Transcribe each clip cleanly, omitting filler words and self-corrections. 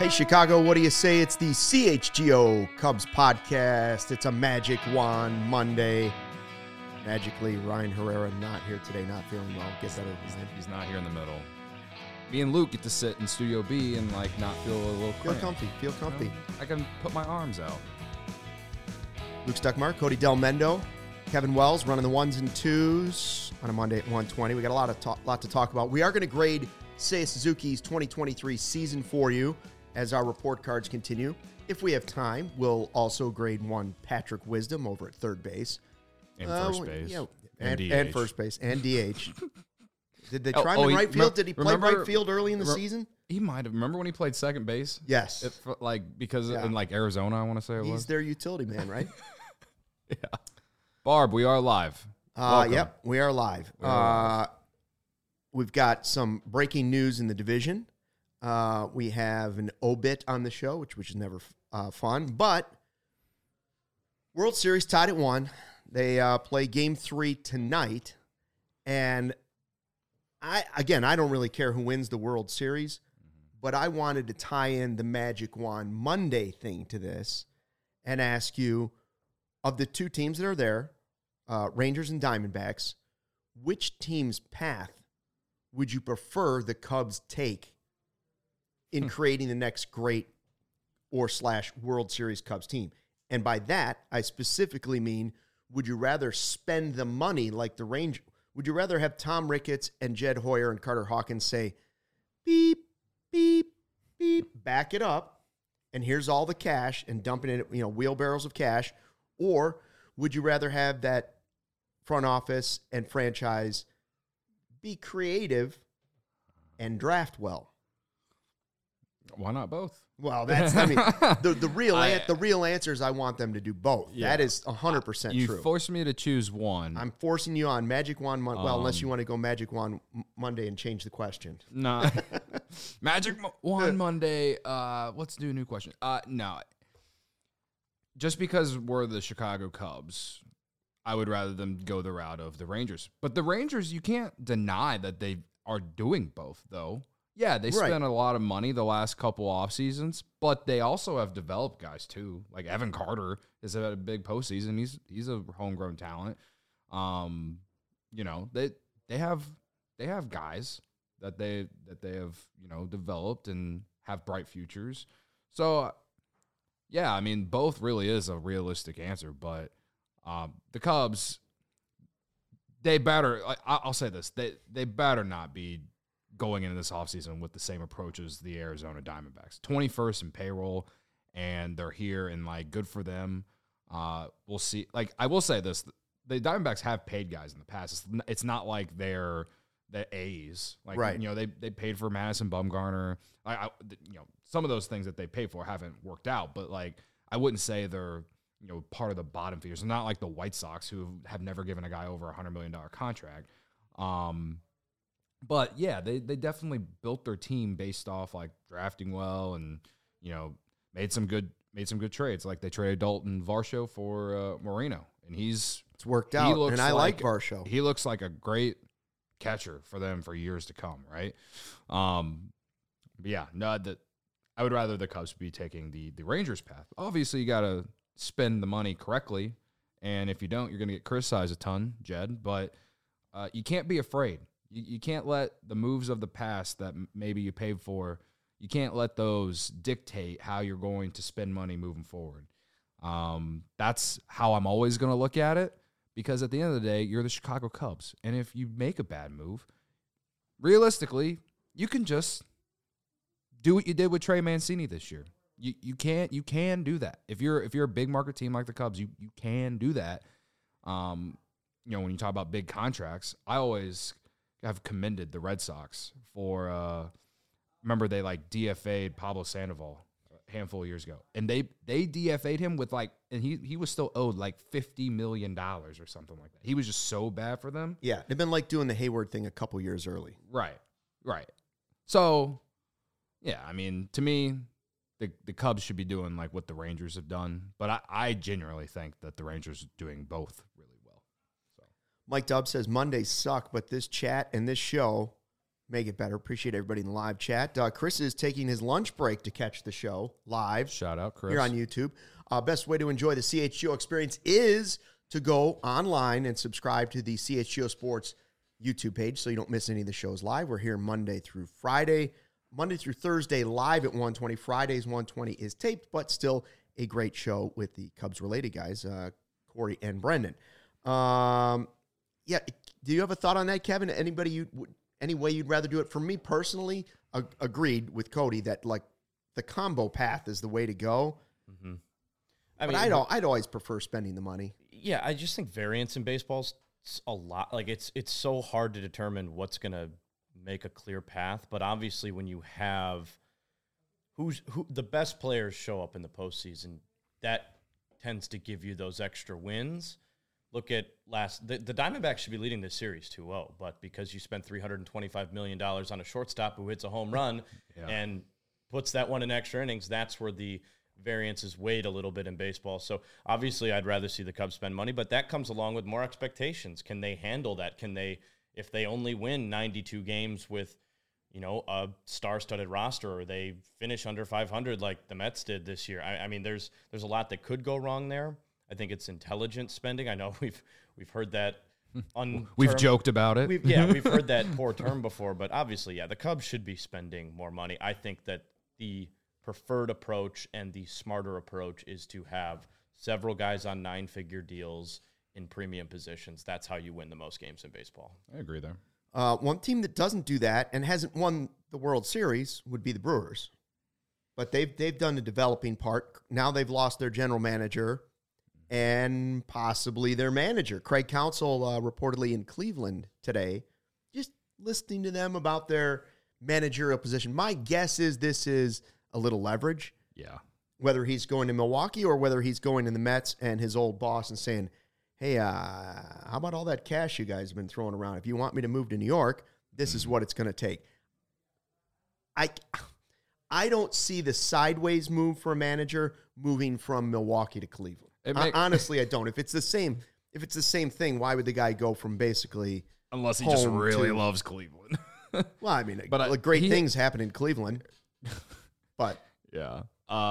Hey, Chicago, what do you say? It's the CHGO Cubs podcast. It's a Magic Wand Monday. Magically, Ryan Herrera not here today, not feeling well. Get better. He's not here in the middle. Me and Luke get to sit in Studio B and not feel a little Feel cramped. comfy. Feel comfy. You know, I can put my arms out. Luke Stuckmark, Cody Del Mendo, Kevin Wells running the ones and twos on a Monday at 1:20. We got a lot to talk about. We are going to grade Seiya Suzuki's 2023 season for you as our report cards continue. If we have time, we'll also grade one Patrick Wisdom over at third base. And first base. You know, and and first base. And DH. Did they try him in right field? Did he play right field early in the season? He might have. Remember when he played second base? Yes. Because in Arizona, I want to say it was. He's their utility man, right? Yeah. Barb, we are live. Yep, we are live. We've got some breaking news in the division. We have an obit on the show, which is never fun. But World Series tied at 1. They play Game 3 tonight. And I don't really care who wins the World Series, but I wanted to tie in the Magic Wand Monday thing to this and ask you, of the two teams that are there, Rangers and Diamondbacks, which team's path would you prefer the Cubs take in creating the next great / World Series Cubs team? And by that, I specifically mean, would you rather spend the money like the Rangers? Would you rather have Tom Ricketts and Jed Hoyer and Carter Hawkins say, beep, beep, beep, back it up, and here's all the cash, and dumping it, wheelbarrows of cash? Or would you rather have that front office and franchise be creative and draft well? Why not both? Well, the real answer is I want them to do both. Yeah. That is 100% true. You forced me to choose one. I'm forcing you on Magic Wand Monday. Well, unless you want to go Magic Wand Monday and change the question. No. Magic Wand Monday. Let's do a new question. No. Just because we're the Chicago Cubs, I would rather them go the route of the Rangers. But the Rangers, you can't deny that they are doing both, though. Yeah, they spent a lot of money the last couple off seasons, but they also have developed guys too. Like Evan Carter has had a big postseason. He's a homegrown talent. They have guys that they have developed and have bright futures. So yeah, I mean both really is a realistic answer, but the Cubs, they better. I'll say this: they better not be going into this offseason with the same approach as the Arizona Diamondbacks. 21st in payroll, and they're here, and, good for them. We'll see. I will say this. The Diamondbacks have paid guys in the past. It's not like they're the A's. Right. They paid for Madison Bumgarner. Some of those things that they paid for haven't worked out, but, I wouldn't say they're, part of the bottom feeders. They're not like the White Sox, who have never given a guy over a $100 million contract. But yeah, they definitely built their team based off drafting well and made some good trades. Like they traded Dalton Varsho for Moreno, and it's worked out. And I like Varsho. He looks like a great catcher for them for years to come, right? But yeah, I would rather the Cubs be taking the Rangers path. Obviously, you got to spend the money correctly, and if you don't, you're going to get criticized a ton, Jed. But you can't be afraid. You can't let the moves of the past that maybe you paid for, you can't let those dictate how you're going to spend money moving forward. That's how I'm always going to look at it, because at the end of the day, you're the Chicago Cubs. And if you make a bad move, realistically, you can just do what you did with Trey Mancini this year. You can do that. If you're a big market team like the Cubs, you can do that. When you talk about big contracts, I always have commended the Red Sox for remember they DFA'd Pablo Sandoval a handful of years ago, and they DFA'd him with and he was still owed $50 million or something like that. He was just so bad for them. Yeah, they've been doing the Hayward thing a couple years early. Right. So yeah, I mean, to me, the Cubs should be doing what the Rangers have done, but I genuinely think that the Rangers are doing both really well. So Mike Dubb says Mondays suck, but this chat and this show make it better. Appreciate everybody in the live chat. Chris is taking his lunch break to catch the show live. Shout out, Chris. Here on YouTube. Best way to enjoy the CHGO experience is to go online and subscribe to the CHGO Sports YouTube page so you don't miss any of the shows live. We're here Monday through Thursday live at 1:20. Fridays 1:20 is taped, but still a great show with the Cubs-related guys, Corey and Brendan. Do you have a thought on that, Kevin? Any way you'd rather do it? For me personally, agreed with Cody that like the combo path is the way to go. Mm-hmm. But I'd always prefer spending the money. Yeah, I just think variance in baseball's a lot. Like it's so hard to determine what's going to make a clear path. But obviously, when you have who the best players show up in the postseason, that tends to give you those extra wins. Look at the Diamondbacks should be leading this series 2-0, but because you spent $325 million on a shortstop who hits a home run and puts that one in extra innings, that's where the variances weighed a little bit in baseball. So obviously I'd rather see the Cubs spend money, but that comes along with more expectations. Can they handle that? Can they, if they only win 92 games with, a star-studded roster, or they finish under 500 like the Mets did this year? I mean, there's a lot that could go wrong there. I think it's intelligent spending. I know we've heard that we've joked about it. We've heard that poor term before, but obviously, the Cubs should be spending more money. I think that the preferred approach and the smarter approach is to have several guys on 9-figure deals in premium positions. That's how you win the most games in baseball. I agree there. One team that doesn't do that and hasn't won the World Series would be the Brewers. But they've done the developing part. Now they've lost their general manager and possibly their manager. Craig Counsell reportedly in Cleveland today, just listening to them about their managerial position. My guess is this is a little leverage. Yeah. Whether he's going to Milwaukee or whether he's going to the Mets and his old boss and saying, hey, how about all that cash you guys have been throwing around? If you want me to move to New York, this is what it's going to take. I don't see the sideways move for a manager moving from Milwaukee to Cleveland. Honestly, I don't. If it's the same thing, why would the guy go from basically unless he just really loves Cleveland? Well, I mean, but great things happen in Cleveland. But yeah,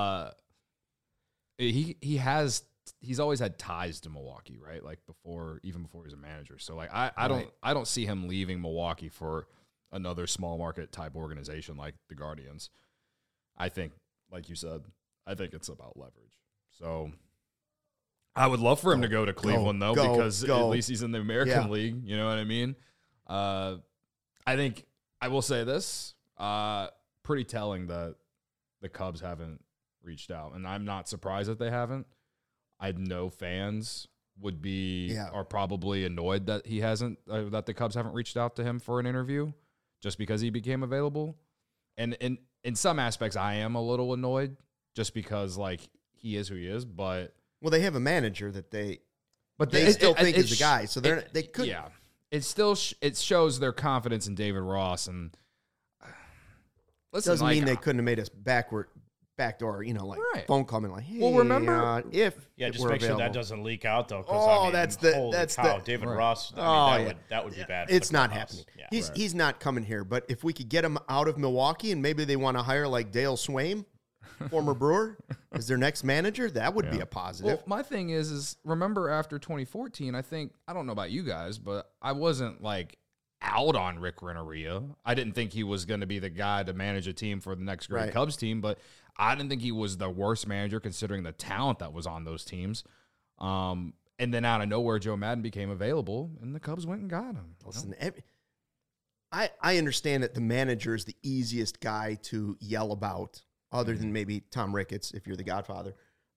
he's always had ties to Milwaukee, right? Like even before he was a manager. So like I don't see him leaving Milwaukee for another small market type organization like the Guardians. I think, like you said, it's about leverage. So I would love for him to go to Cleveland because at least he's in the American League. You know what I mean? I think I will say this, pretty telling that the Cubs haven't reached out, and I'm not surprised that they haven't. I know fans are probably annoyed that he hasn't, that the Cubs haven't reached out to him for an interview just because he became available. And in some aspects, I am a little annoyed just because like he is who he is, but they have a manager that they still think is the guy, so they could. Yeah, it shows their confidence in David Ross, and listen, doesn't mean they couldn't have made us backdoor, phone call and like, hey, well, remember if just make sure that doesn't leak out though. That's David Ross. That would be bad. It's not happening. Yeah. He's not coming here. But if we could get him out of Milwaukee and maybe they want to hire like Dale Swaim, former Brewer, as their next manager, that would be a positive. Well, my thing is remember after 2014, I don't know about you guys, but I wasn't like out on Rick Renteria. I didn't think he was going to be the guy to manage a team for the next great Cubs team, but I didn't think he was the worst manager considering the talent that was on those teams. And then out of nowhere, Joe Maddon became available, and the Cubs went and got him. Listen, I understand that the manager is the easiest guy to yell about, other than maybe Tom Ricketts, if you're the Godfather.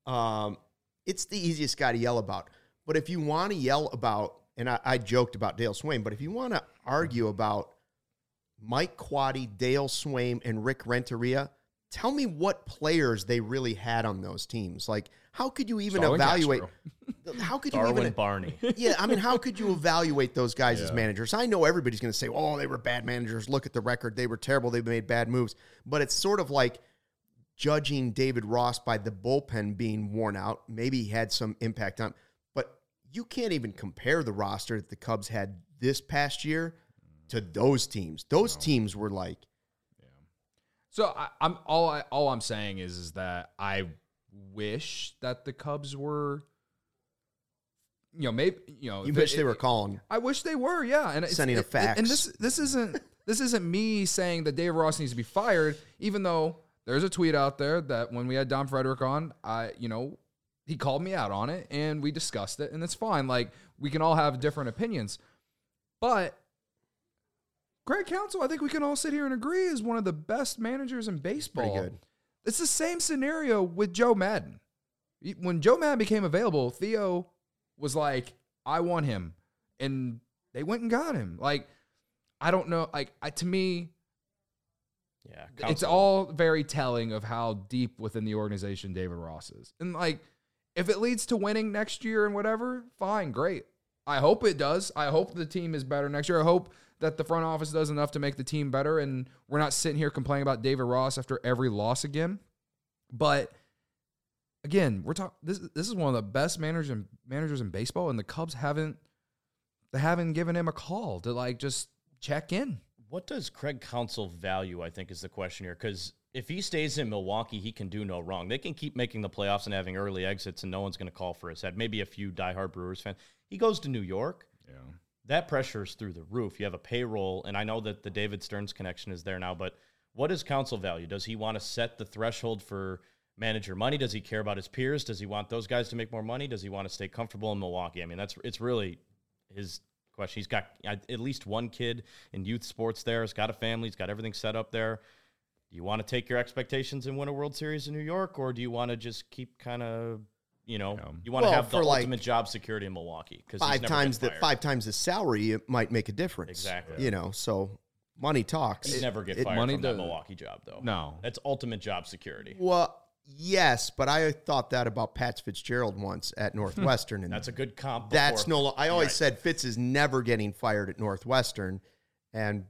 It's the easiest guy to yell about. But if you want to yell about, and I joked about Dale Swaim, but if you want to argue about Mike Quade, Dale Swaim, and Rick Renteria, tell me what players they really had on those teams. Like, how could you even evaluate? How could you even Barney? Yeah, I mean, how could you evaluate those guys as managers? I know everybody's going to say, "Oh, they were bad managers. Look at the record; they were terrible. They made bad moves." But it's sort of like judging David Ross by the bullpen being worn out. Maybe he had some impact on, but you can't even compare the roster that the Cubs had this past year to those teams. Those teams were like, So I'm all I'm saying is that I wish that the Cubs were, maybe you wish they were calling. I wish they were, yeah, and sending a fax. And this isn't me saying that David Ross needs to be fired, even though there's a tweet out there that when we had Don Frederick on, he called me out on it and we discussed it, and it's fine. Like, we can all have different opinions, but Craig Counsell, I think we can all sit here and agree, is one of the best managers in baseball. Pretty good. It's the same scenario with Joe Madden. When Joe Madden became available, Theo was like, I want him. And they went and got him. Like, I don't know. Like, to me, it's all very telling of how deep within the organization David Ross is. And, like, if it leads to winning next year and whatever, fine, great. I hope it does. I hope the team is better next year. I hope that the front office does enough to make the team better, and we're not sitting here complaining about David Ross after every loss again. But again, we're talking. This is one of the best managers in baseball, and the Cubs haven't given him a call to like just check in. What does Craig Counsell value, I think, is the question here. Because if he stays in Milwaukee, he can do no wrong. They can keep making the playoffs and having early exits, and no one's going to call for his head. Maybe a few diehard Brewers fans. He goes to New York. Yeah. That pressure is through the roof. You have a payroll, and I know that the David Stearns connection is there now, but what does Counsell value? Does he want to set the threshold for manager money? Does he care about his peers? Does he want those guys to make more money? Does he want to stay comfortable in Milwaukee? I mean, it's really his question. He's got at least one kid in youth sports there. He's got a family. He's got everything set up there. Do you want to take your expectations and win a World Series in New York, or do you want to just keep kind of, you want to have the ultimate job security in Milwaukee? Because 5 times the salary, it might make a difference. Exactly. So money talks. He'd never get fired from that Milwaukee job, though. No. That's ultimate job security. Well, yes, but I thought that about Pat Fitzgerald once at Northwestern. And that's a good comp. That's I always said Fitz is never getting fired at Northwestern, and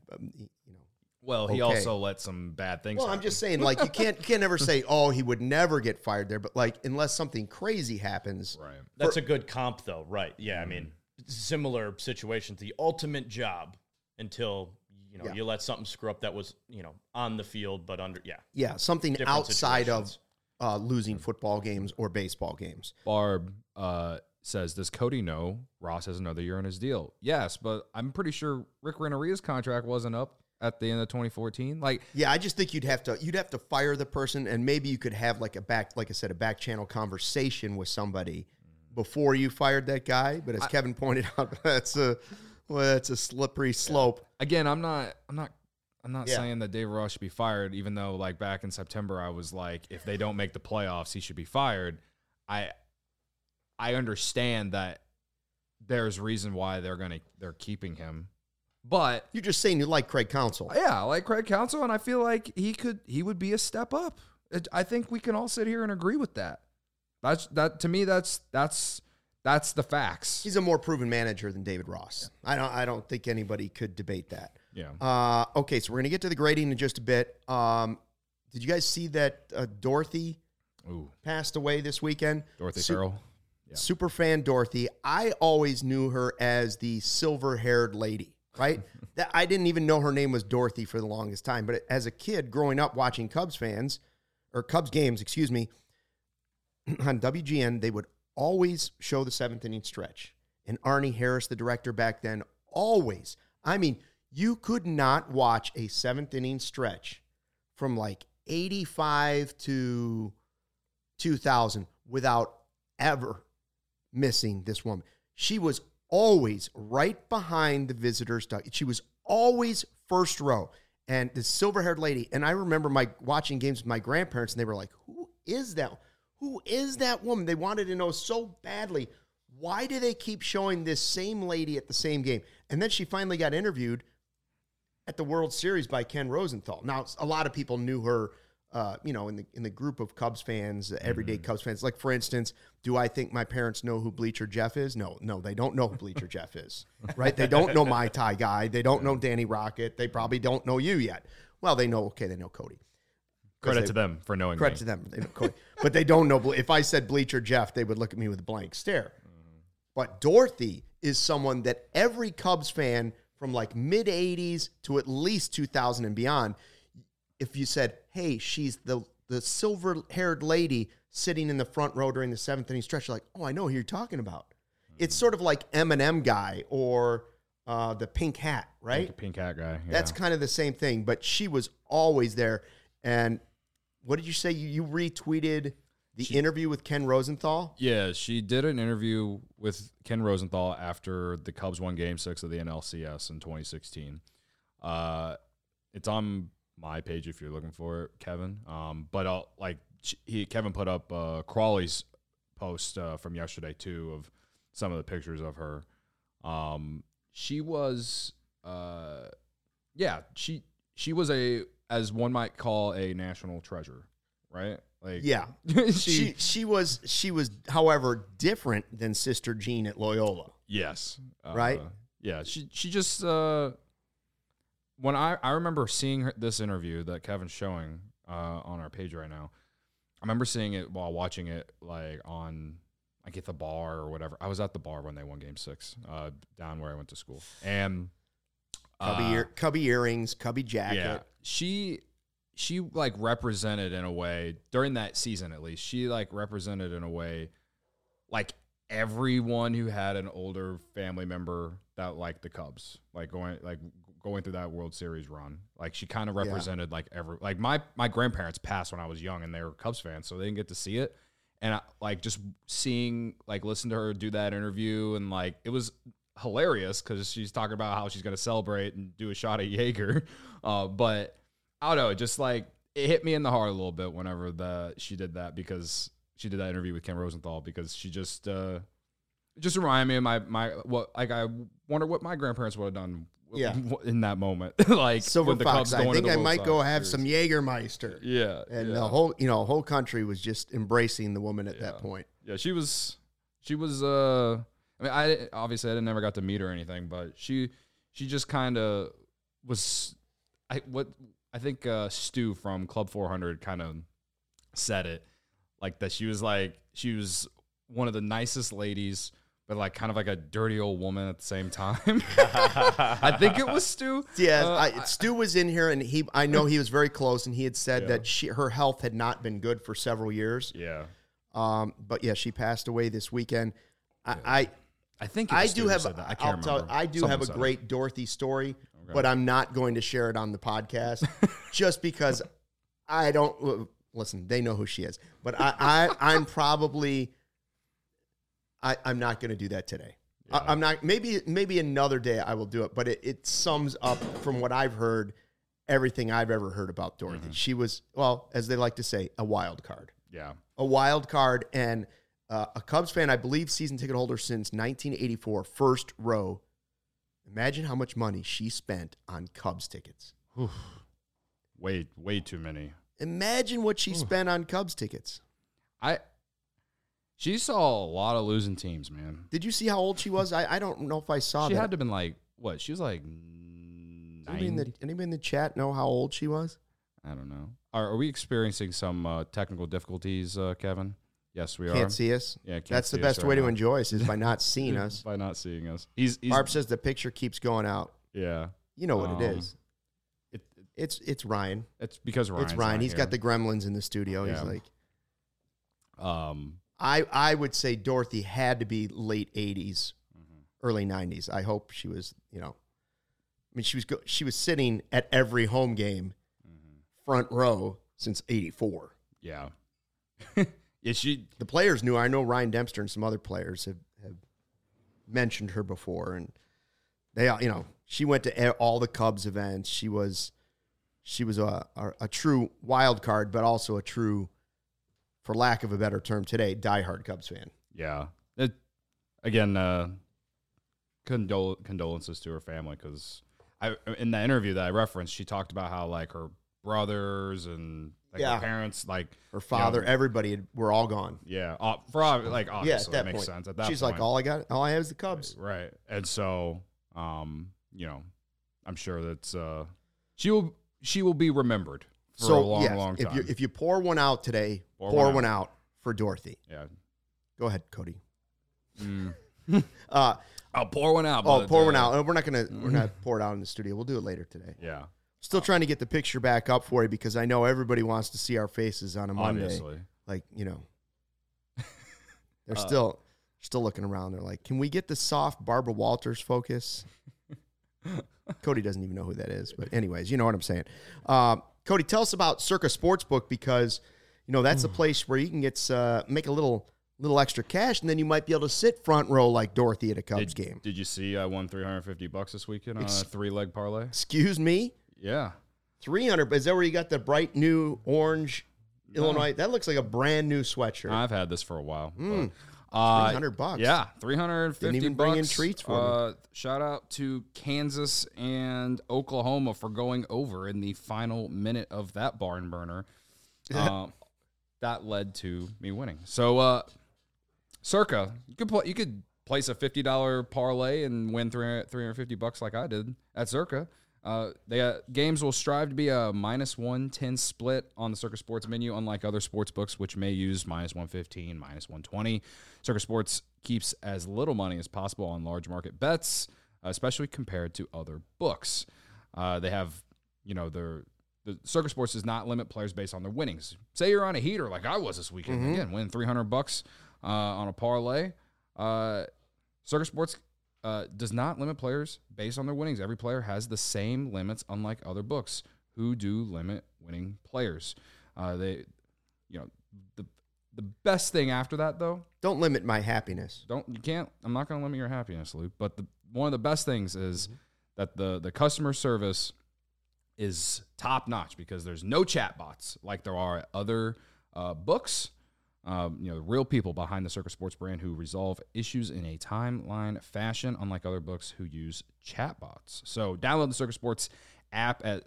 well, he also let some bad things. Well, happen. I'm just saying, like, you can't never say, oh, he would never get fired there, but like, unless something crazy happens, right? That's a good comp, though, right? Yeah, I mean, similar situations. The ultimate job until you let something screw up that was on the field, but something outside of losing football games or baseball games. Barb says, does Cody know Ross has another year on his deal? Yes, but I'm pretty sure Rick Renteria's contract wasn't up at the end of 2014. I just think you'd have to fire the person, and maybe you could have like a back channel conversation with somebody before you fired that guy. But as Kevin pointed out, that's a slippery slope. Again, I'm not saying that David Ross should be fired, even though like back in September I was like, if they don't make the playoffs, he should be fired. I understand that there's reason why they're keeping him. But you're just saying you like Craig Counsell. Yeah, I like Craig Counsell, and I feel like he would be a step up. I think we can all sit here and agree with that. To me, that's the facts. He's a more proven manager than David Ross. Yeah. I don't think anybody could debate that. Yeah. Okay, so we're gonna get to the grading in just a bit. Did you guys see that Dorothy passed away this weekend? Dorothy Farrell. Yeah. Super fan Dorothy. I always knew her as the silver-haired lady. Right? That I didn't even know her name was Dorothy for the longest time. But as a kid growing up watching Cubs games, on WGN, they would always show the 7th inning stretch. And Arnie Harris, the director back then, always. I mean, you could not watch a 7th inning stretch from like 85 to 2000 without ever missing this woman. She was always right behind the visitors' dugout. She was always first row. And this silver-haired lady, and I remember watching games with my grandparents, and they were like, who is that? Who is that woman? They wanted to know so badly, why do they keep showing this same lady at the same game? And then she finally got interviewed at the World Series by Ken Rosenthal. Now, a lot of people knew her, in the group of Cubs fans, everyday Cubs fans. Like, for instance, do I think my parents know who Bleacher Jeff is? No, they don't know who Bleacher Jeff is, right? They don't know My Thai Guy. They don't know Danny Rocket. They probably don't know you yet. Well, they know Cody. Credit to them for knowing Credit to them. They know Cody. But they don't know. If I said Bleacher Jeff, they would look at me with a blank stare. But Dorothy is someone that every Cubs fan from like mid 80s to at least 2000 and beyond. If you said, hey, she's the silver-haired lady sitting in the front row during the 7th inning stretch, you're like, oh, I know who you're talking about. It's sort of like Eminem guy or the pink hat, right? Pink hat guy. Yeah. That's kind of the same thing, but she was always there. And what did you say? You retweeted the interview with Ken Rosenthal? Yeah, she did an interview with Ken Rosenthal after the Cubs won Game 6 of the NLCS in 2016. It's on my page if you're looking for it, Kevin. But Kevin put up Crawley's post from yesterday too of some of the pictures of her. She was, she was as one might call a national treasure, right? Like, yeah, she was, however, different than Sister Jean at Loyola. Yes, right. Yeah, she just when I remember seeing this interview that Kevin's showing on our page right now. I remember seeing it while watching it like on like at the bar or whatever. I was at the bar when they won Game 6 down where I went to school, and cubby earrings, cubby jacket. Yeah, she like represented in a way during that season, at least she like represented in a way like everyone who had an older family member that liked the Cubs, like going through that World Series run. Like she kind of represented like my grandparents passed when I was young and they were Cubs fans, so they didn't get to see it. And I, like just seeing listen to her do that interview, and like it was hilarious because she's talking about how she's going to celebrate and do a shot at Jaeger. But I don't know, it just like it hit me in the heart a little bit whenever she did that, because she did that interview with Ken Rosenthal, because she just reminded me of I wonder what my grandparents would have done in that moment. Like Silver the Fox, Cubs I going think to the I World might go have Series. some Jägermeister. Yeah. And the whole country was just embracing the woman at that point. Yeah, she was I mean, I never got to meet her or anything, but she just kind of was I think Stu from Club 400 kind of said it like that. She was one of the nicest ladies, but like kind of like a dirty old woman at the same time. I think it was Stu. Yeah, Stu was in here, and I know he was very close, and he had said that her health had not been good for several years. Yeah. But yeah, she passed away this weekend. I think I Stu do have said that. I can't remember. I do Someone have a said great Dorothy story, but I'm not going to share it on the podcast just because I don't listen. They know who she is, but I'm probably. I'm not going to do that today. Yeah. I'm not. Maybe another day I will do it. But it sums up from what I've heard, everything I've ever heard about Dorothy. Mm-hmm. She was, well, as they like to say, a wild card. Yeah, a wild card, and a Cubs fan, I believe, season ticket holder since 1984, first row. Imagine how much money she spent on Cubs tickets. Way too many. Imagine what she spent on Cubs tickets. She saw a lot of losing teams, man. Did you see how old she was? I don't know if I saw that. She had to have been like, what? She was like 90? Anybody in the chat know how old she was? I don't know. Are we experiencing some technical difficulties, Kevin? Yes, we are. Can't see us? Yeah, that's the best way to enjoy us is by not seeing us. By not seeing us. Barb says the picture keeps going out. Yeah. You know what it is. It's Ryan. It's because Ryan's It's Ryan. not He's here. got the gremlins in the studio. Yeah. He's like... I would say Dorothy had to be late 80s, early 90s. I hope she was, I mean, she was sitting at every home game, front row since 84. Yeah. The players knew. I know Ryan Dempster and some other players have mentioned her before, and they, she went to all the Cubs events. She was a true wild card, but also a true, for lack of a better term today, diehard Cubs fan. Yeah. Condolences to her family, because in the interview that I referenced, she talked about how like her brothers and her parents, like her father, everybody were all gone. Yeah, obviously that makes sense. At that she's point, like, all I have is the Cubs, right? And so, I'm sure that she will be remembered for a long time. If you pour one out today, pour one out for Dorothy. Yeah, go ahead, Cody. I'll pour one out. Oh, but, pour one out. We're not pour it out in the studio. We'll do it later today. Yeah. Still trying to get the picture back up for you because I know everybody wants to see our faces on a Monday. Obviously. Like, they're still looking around. They're like, can we get the soft Barbara Walters focus? Cody doesn't even know who that is. But anyways, you know what I'm saying. Cody, tell us about Circa Sportsbook because, that's the place where you can get make a little extra cash, and then you might be able to sit front row like Dorothy at a Cubs game. Did you see I won $350 this weekend on a 3-leg parlay? Excuse me? Yeah. 300, but is that where you got the bright new orange Illinois? That looks like a brand new sweatshirt. I've had this for a while. $300. Yeah, $350. Didn't even bring in treats for me. Shout out to Kansas and Oklahoma for going over in the final minute of that barn burner. That led to me winning. So, Circa, you could place a $50 parlay and win $350 like I did at Circa. Games will strive to be a -110 split on the Circa Sports menu, unlike other sports books, which may use -115, -120. Circa Sports keeps as little money as possible on large market bets, especially compared to other books. They have, the Circa Sports does not limit players based on their winnings. Say you're on a heater like I was this weekend, again, win $300 on a parlay. Circa Sports does not limit players based on their winnings. Every player has the same limits, unlike other books who do limit winning players. The best thing after that, though, don't limit my happiness. I'm not going to limit your happiness, Luke. But one of the best things is that the customer service is top notch because there's no chat bots like there are at other books. Real people behind the Circa Sports brand who resolve issues in a timeline fashion, unlike other books who use chatbots. So download the Circa Sports app at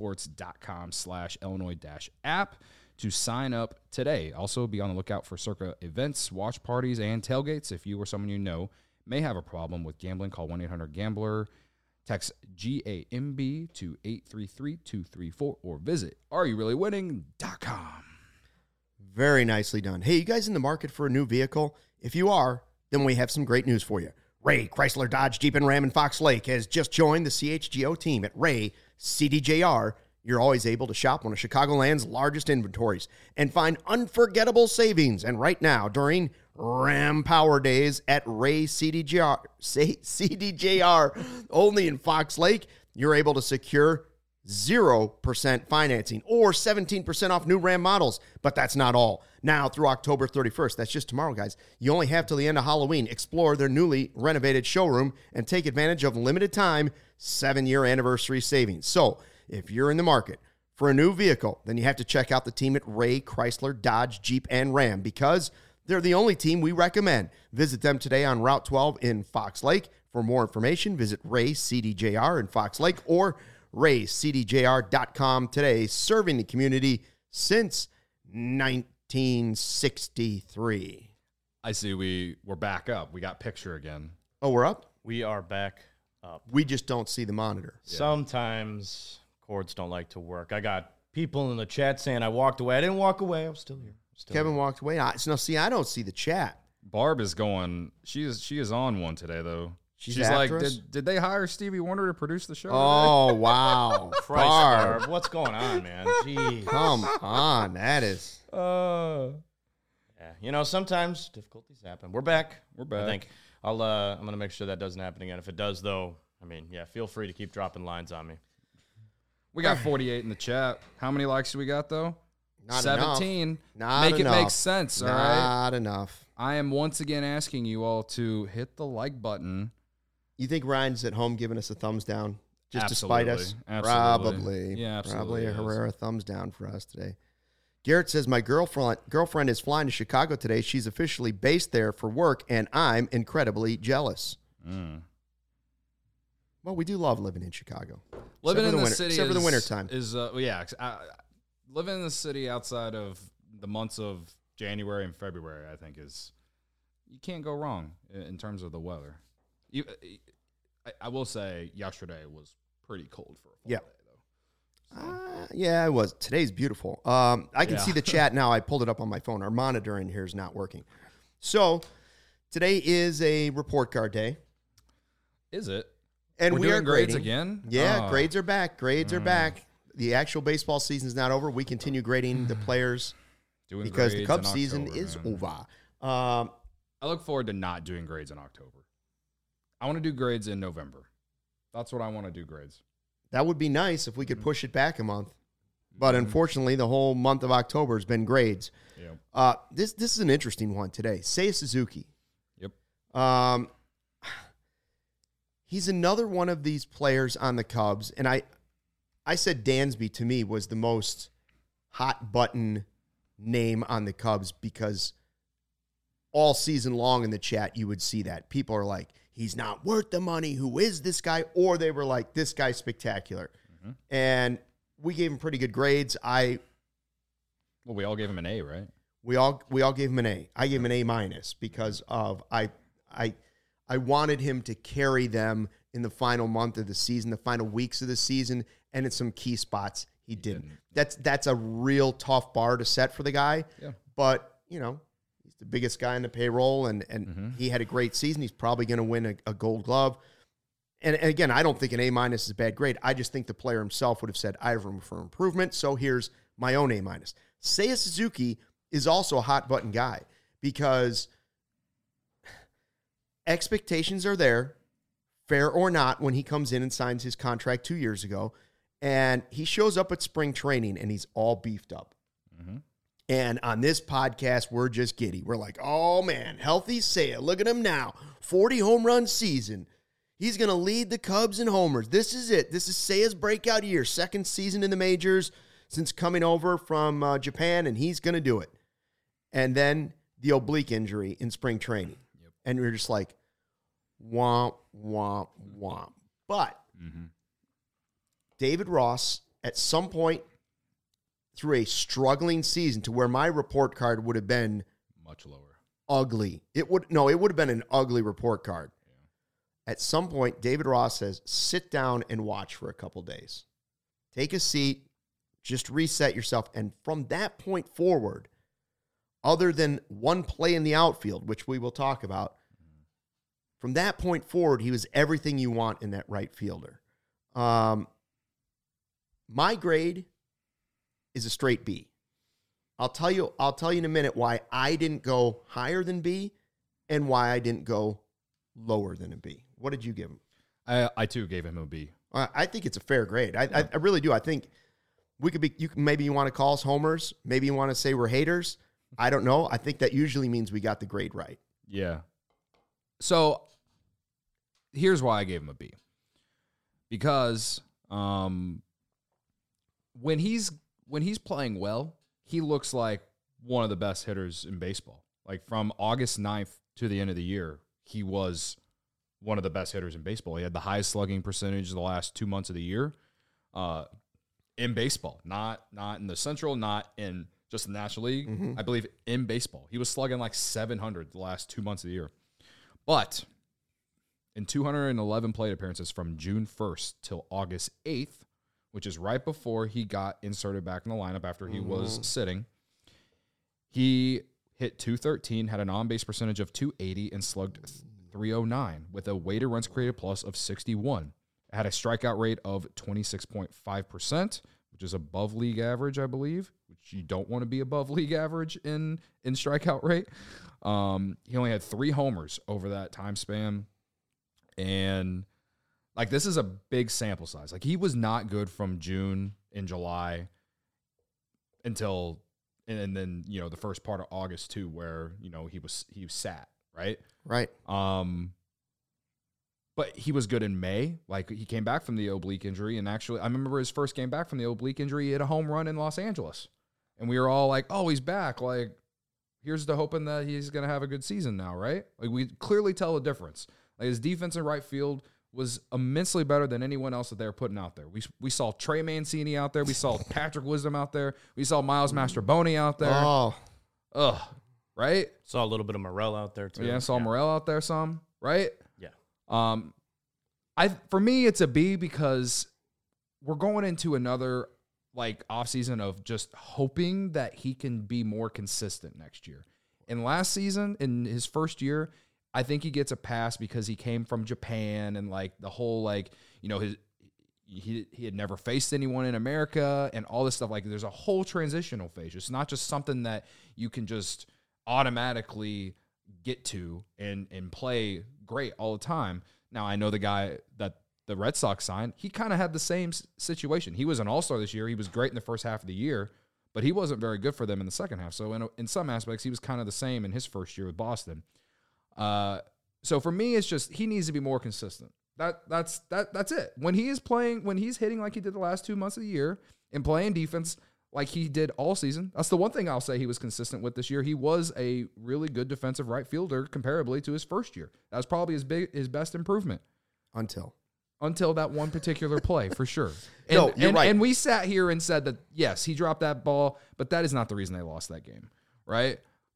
circasports.com/Illinois-app to sign up today. Also, be on the lookout for Circa events, watch parties, and tailgates. If you or someone you know may have a problem with gambling, call 1-800-GAMBLER. Text GAMB to 833-234 or visit areyoureallywinning.com. Very nicely done. Hey, you guys in the market for a new vehicle? If you are, then we have some great news for you. Ray Chrysler Dodge Jeep and Ram in Fox Lake has just joined the CHGO team at Ray CDJR. You're always able to shop one of Chicagoland's largest inventories and find unforgettable savings. And right now, during Ram Power Days at Ray CDJR, only in Fox Lake, you're able to secure 0% financing or 17% off new Ram models. But that's not all. Now through October 31st, that's just tomorrow, guys, you only have till the end of Halloween. Explore their newly renovated showroom and take advantage of limited time 7-year anniversary savings. So if you're in the market for a new vehicle, then you have to check out the team at Ray Chrysler Dodge Jeep and Ram because they're the only team we recommend. Visit them today on Route 12 in Fox Lake. For more information, visit Ray CDJR in Fox Lake or RayCDJR.com today, serving the community since 1963. I see we're back up. We got picture again. Oh, we're up? We are back up. We just don't see the monitor. Yeah. Sometimes cords don't like to work. I got people in the chat saying I walked away. I didn't walk away. I'm still here. Kevin walked away. I don't see the chat. Barb is going. She is on one today, though. She's like, did they hire Stevie Wonder to produce the show? Oh, wow. Christ, Barb. What's going on, man? Jeez. Come on. That is. Yeah, sometimes difficulties happen. We're back. I think I'm going to make sure that doesn't happen again. If it does, though, feel free to keep dropping lines on me. We got 48 in the chat. How many likes do we got, though? Not 17. Enough. Not Make enough. it make sense, all right? Not enough. I am once again asking you all to hit the like button. You think Ryan's at home giving us a thumbs down just Absolutely. to spite us? Absolutely. Probably. Yeah, absolutely. Probably a Herrera thumbs down for us today. Garrett says, my girlfriend is flying to Chicago today. She's officially based there for work, and I'm incredibly jealous. Well, we do love living in Chicago. Living in the city except for the wintertime. Living in the city outside of the months of January and February, I think you can't go wrong in terms of the weather. I will say yesterday was pretty cold for a fall day, though. Yeah, it was. Today's beautiful. I can see the chat now. I pulled it up on my phone. Our monitor in here is not working. So today is a report card day. Is it? And We're we are doing grades grading again? Yeah, Oh. grades are back. Grades are back. The actual baseball season is not over. We continue grading the players Doing because the grades Cubs in season October, is man. over. I look forward to not doing grades in October. I want to do grades in November. That's what I want to do grades. That would be nice if we could push it back a month. Mm-hmm. But unfortunately, the whole month of October has been grades. Yep. This is an interesting one today. Seiya Suzuki. Yep. He's another one of these players on the Cubs, and I said Dansby to me was the most hot button name on the Cubs because all season long in the chat you would see that. People are like, he's not worth the money. Who is this guy? Or they were like, this guy's spectacular. Mm-hmm. And we gave him pretty good grades. Well, we all gave him an A, right? We all gave him an A. I gave him an A minus because of I wanted him to carry them in the final month of the season, the final weeks of the season, and in some key spots he didn't. That's a real tough bar to set for the guy. Yeah. But, he's the biggest guy in the payroll, and he had a great season. He's probably going to win a Gold Glove. And again, I don't think an A minus is a bad grade. I just think the player himself would have said, I have room for improvement, so here's my own A minus. Seiya Suzuki is also a hot button guy because expectations are there, fair or not, when he comes in and signs his contract 2 years ago. And he shows up at spring training and he's all beefed up. Mm-hmm. And on this podcast, we're just giddy. We're like, oh man, healthy Seiya. Look at him now. 40 home run season. He's going to lead the Cubs in homers. This is it. This is Seiya's breakout year. Second season in the majors since coming over from Japan, and he's going to do it. And then the oblique injury in spring training. Yep. And we're just like, womp, womp, womp. But David Ross, at some point through a struggling season to where my report card would have been much lower, ugly. It would have been an ugly report card. Yeah. At some point, David Ross says, sit down and watch for a couple days. Take a seat, just reset yourself. And from that point forward, other than one play in the outfield, which we will talk about, from that point forward, he was everything you want in that right fielder. My grade is a straight B. I'll tell you in a minute why I didn't go higher than B and why I didn't go lower than a B. What did you give him? I too gave him a B. I think it's a fair grade. I really do. I think we could be. Maybe you want to call us homers. Maybe you want to say we're haters. I don't know. I think that usually means we got the grade right. Yeah. So here's why I gave him a B. Because when he's playing well, he looks like one of the best hitters in baseball. Like from August 9th to the end of the year, he was one of the best hitters in baseball. He had the highest slugging percentage the last 2 months of the year in baseball, not in the Central, not in just the National League. Mm-hmm. I believe in baseball. He was slugging like 700 the last 2 months of the year. But in 211 plate appearances from June 1st till August 8th, which is right before he got inserted back in the lineup after he was sitting, he hit .213, had an on-base percentage of .280, and slugged .309 with a weighted runs created plus of 61. It had a strikeout rate of 26.5%, which is above league average, I believe, which you don't want to be above league average in strikeout rate. He only had 3 homers over that time span. And like, this is a big sample size. Like, he was not good from June and July until, and then, the first part of August too, where, he was sat, right? Right. But he was good in May. Like, he came back from the oblique injury, and actually, I remember his first game back from the oblique injury, he hit a home run in Los Angeles. And we were all like, oh, he's back. Like, here's to hoping that he's going to have a good season now, right? Like, we clearly tell the difference. Like, his defense in right field was immensely better than anyone else that they were putting out there. We saw Trey Mancini out there. We saw Patrick Wisdom out there. We saw Miles Mastroboni out there. Oh. Ugh. Right? Saw a little bit of Morel out there, too. Yeah, saw Morel out there some. Right? Yeah. For me, it's a B because we're going into another offseason of just hoping that he can be more consistent next year. And last season, in his first year, I think he gets a pass because he came from Japan and like the whole like, you know, he had never faced anyone in America and all this stuff. Like there's a whole transitional phase. It's not just something that you can just automatically get to and play great all the time. Now I know the guy that the Red Sox signed, he kind of had the same situation. He was an all-star this year. He was great in the first half of the year, but he wasn't very good for them in the second half. So in some aspects, he was kind of the same in his first year with Boston. So for me, it's just he needs to be more consistent. That's it. When he is playing, when he's hitting like he did the last 2 months of the year and playing defense like he did all season, that's the one thing I'll say he was consistent with this year. He was a really good defensive right fielder comparably to his first year. That was probably his best improvement until that one particular play, for sure. And, you're right. And we sat here and said that, yes, he dropped that ball, but that is not the reason they lost that game, right?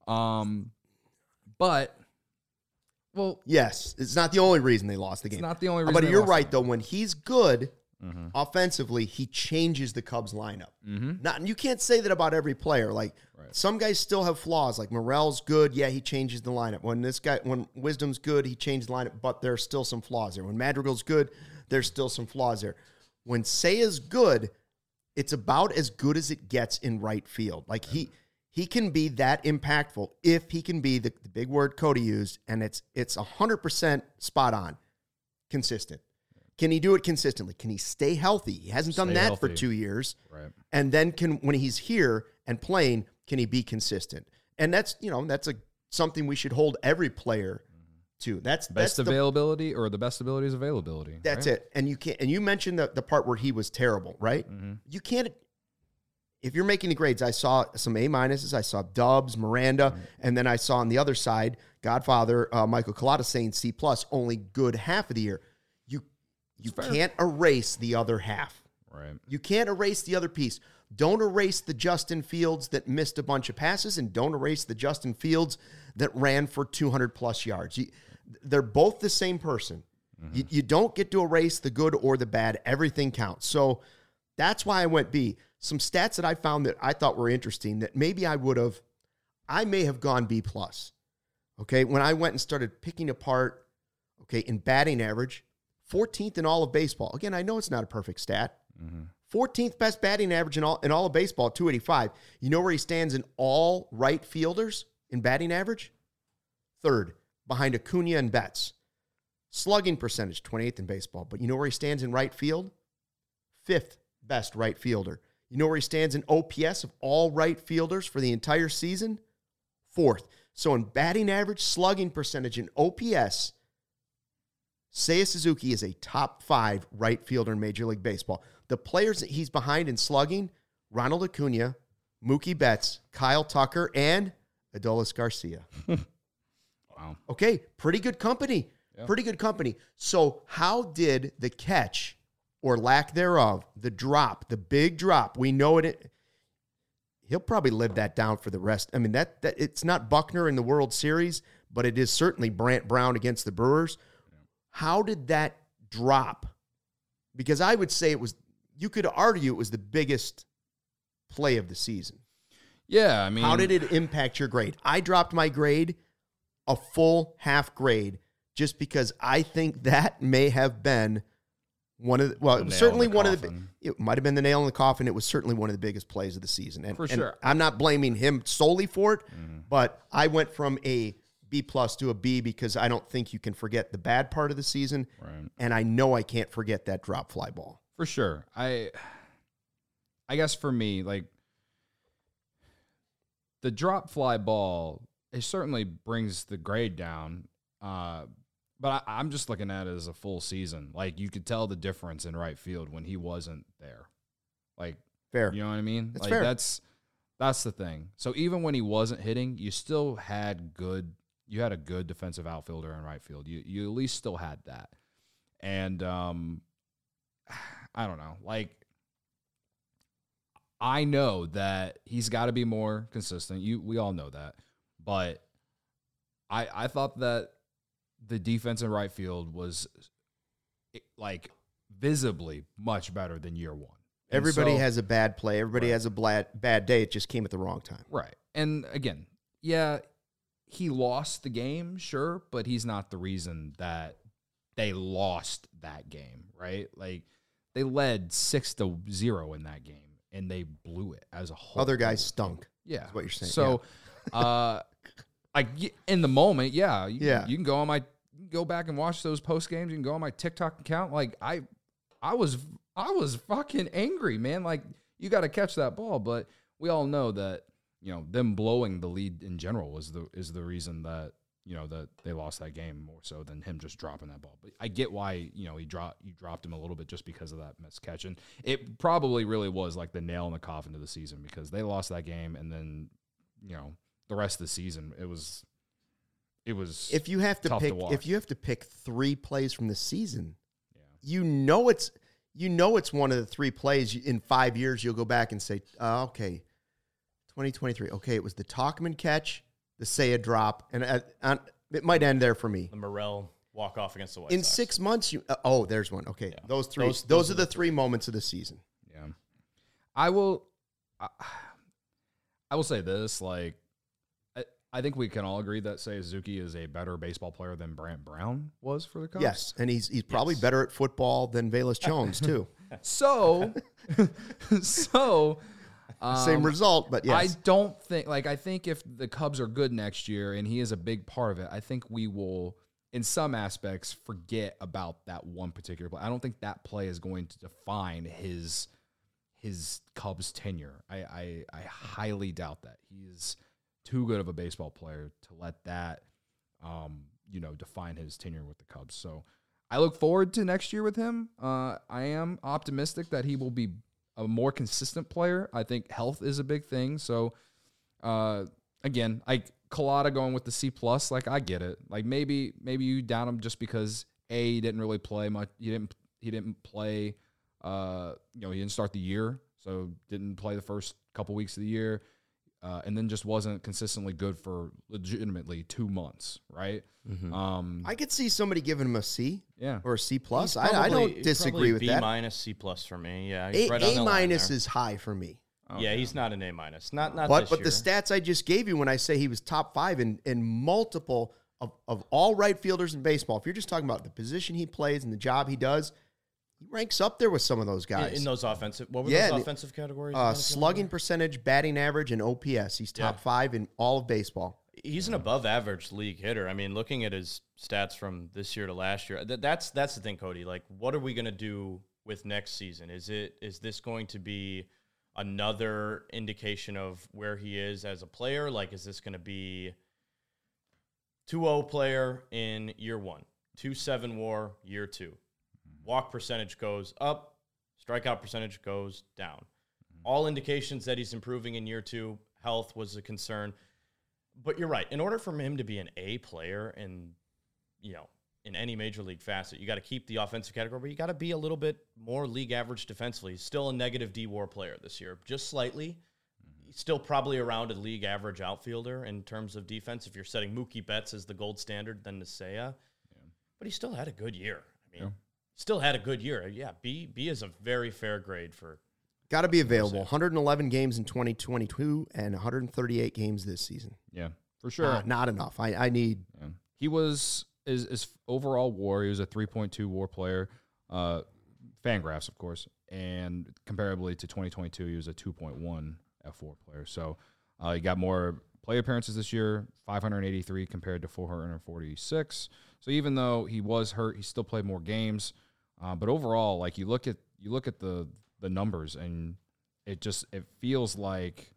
But, well... Yes, it's not the only reason they lost the game. It's not the only reason But they you're lost right, though. When he's good offensively, he changes the Cubs lineup. You can't say that about every player. Like, some guys still have flaws. Like, Morel's good. Yeah, he changes the lineup. When Wisdom's good, he changes the lineup, but there's still some flaws there. When Madrigal's good, there's still some flaws there. When Seiya's good, it's about as good as it gets in right field. Like, he can be that impactful if he can be the big word Cody used, and it's 100% spot on, consistent. Can he do it consistently? Can he stay healthy? He hasn't done that for 2 years. Right. And then when he's here and playing, can he be consistent? And that's something we should hold every player to. That's availability or the best ability is availability. That's it. And you mentioned the part where he was terrible, right? You can't. If you're making the grades, I saw some A minuses. I saw Dubs, Miranda, and then I saw on the other side, Godfather, Michael Collada saying C+, only good half of the year. You can't erase the other half. Right. You can't erase the other piece. Don't erase the Justin Fields that missed a bunch of passes, and don't erase the Justin Fields that ran for 200-plus yards. They're both the same person. You don't get to erase the good or the bad. Everything counts. So that's why I went B. Some stats that I found that I thought were interesting that maybe I may have gone B+. Okay, when I went and started picking apart, in batting average, 14th in all of baseball. Again, I know it's not a perfect stat. 14th best batting average in all of baseball, 285. You know where he stands in all right fielders in batting average? Third, behind Acuna and Betts. Slugging percentage, 28th in baseball. But you know where he stands in right field? Fifth best right fielder. You know where he stands in OPS of all right fielders for the entire season? Fourth. So in batting average, slugging percentage, and OPS, Seiya Suzuki is a top 5 right fielder in Major League Baseball. The players that he's behind in slugging, Ronald Acuna, Mookie Betts, Kyle Tucker, and Adolis Garcia. Wow. Okay, pretty good company. Yeah. Pretty good company. So how did the catch, or lack thereof, the drop, the big drop, we know it, he'll probably live that down for the rest. I mean, that it's not Buckner in the World Series, but it is certainly Brant Brown against the Brewers. How did that drop? Because I would say you could argue it was the biggest play of the season. Yeah, I mean. How did it impact your grade? I dropped my grade a full half grade just because I think that may have been one of the, it was certainly one of the, it might have been the nail in the coffin. It was certainly one of the biggest plays of the season. And, for sure. And I'm not blaming him solely for it, but I went from a B+ to a B because I don't think you can forget the bad part of the season. Right. And I know I can't forget that drop fly ball. For sure. I guess for me, like, the drop fly ball, it certainly brings the grade down. But I'm just looking at it as a full season. Like, you could tell the difference in right field when he wasn't there. Like, fair. You know what I mean? That's like, fair. That's the thing. So even when he wasn't hitting, you still had a good defensive outfielder in right field. You at least still had that. And I don't know. Like, I know that he's got to be more consistent. We all know that. But I thought that the defense in right field was, like, visibly much better than year one. Everybody has a bad play. Everybody has a bad day. It just came at the wrong time. Right. And again, yeah, he lost the game, sure, but he's not the reason that they lost that game, right? Like, they led 6-0 in that game, and they blew it as a whole. Other guys stunk. Yeah. Is what you're saying. So, in the moment, you can go back and watch those post games. You can go on my TikTok account. Like, I was fucking angry, man. Like, you got to catch that ball, but we all know that, them blowing the lead in general is the reason that, that they lost that game more so than him just dropping that ball. But I get why, you dropped him a little bit just because of that missed catch. And it probably really was like the nail in the coffin of the season, because they lost that game, and then, the rest of the season it was if you have to tough pick to watch. if you have to pick 3 plays from the season, Yeah. it's one of the 3 plays in 5 years you'll go back and say, okay, 2023. Okay, it was the Talkman catch, the Seiya drop, and it might end there for me. The Morel walk-off against the White In Sox. 6 months, there's one. Okay, Yeah. those 3. Those are the 3 moments of the season. Yeah. I will say this, like, I think we can all agree that Seiya Suzuki is a better baseball player than Brant Brown was for the Cubs. Yes, and he's probably better at football than Velus Jones too. So, Same result, but yes. I think if the Cubs are good next year and he is a big part of it, I think we will, in some aspects, forget about that one particular play. I don't think that play is going to define his Cubs tenure. I highly doubt that. He's too good of a baseball player to let that, define his tenure with the Cubs. So I look forward to next year with him. I am optimistic that he will be a more consistent player. I think health is a big thing. So, again, Collada going with the C+, like, I get it. Like, maybe you down him just because he didn't really play much. He didn't play. He didn't start the year, so didn't play the first couple weeks of the year, and then just wasn't consistently good for legitimately 2 months, right? Mm-hmm. I could see somebody giving him a C, Yeah, or a C+. He's I don't disagree with that. B- C+ for me. Yeah, he's right on the A- line minus there. is high for me. Yeah, he's not an A-. Not But this the year. stats I just gave you when I say he was top 5 in multiple of all right fielders in baseball, if you're just talking about the position he plays and the job he does, he ranks up there with some of those guys. in those offensive. What were Yeah, those offensive categories? slugging percentage, batting average, and OPS. He's top 5 in all of baseball. He's an above-average league hitter. I mean, looking at his stats from this year to last year, that's the thing, Cody. Like, what are we going to do with next season? Is this going to be another indication of where he is as a player? Like, is this going to be 2.0 player in year 1, 2.7 WAR year 2? Walk percentage goes up, strikeout percentage goes down. All indications that he's improving in year 2. Health was a concern. But you're right. In order for him to be an A player in any major league facet, you got to keep the offensive category, but you got to be a little bit more league average defensively. He's still a negative D-WAR player this year, just slightly. He's still probably around a league average outfielder in terms of defense. If you're setting Mookie Betts as the gold standard, then Seiya. But he still had a good year. I mean, still had a good year. Yeah, B is a very fair grade for. Got to be available. 111 games in 2022 and 138 games this season. Yeah, for sure. Not enough. I need. Yeah. He was his overall WAR. He was a 3.2 WAR player. Fangraphs, of course, and comparably to 2022, he was a 2.1 F4 player. So he got more play appearances this year, 583 compared to 446. So even though he was hurt, he still played more games. But overall, like, you look at the numbers, and it feels like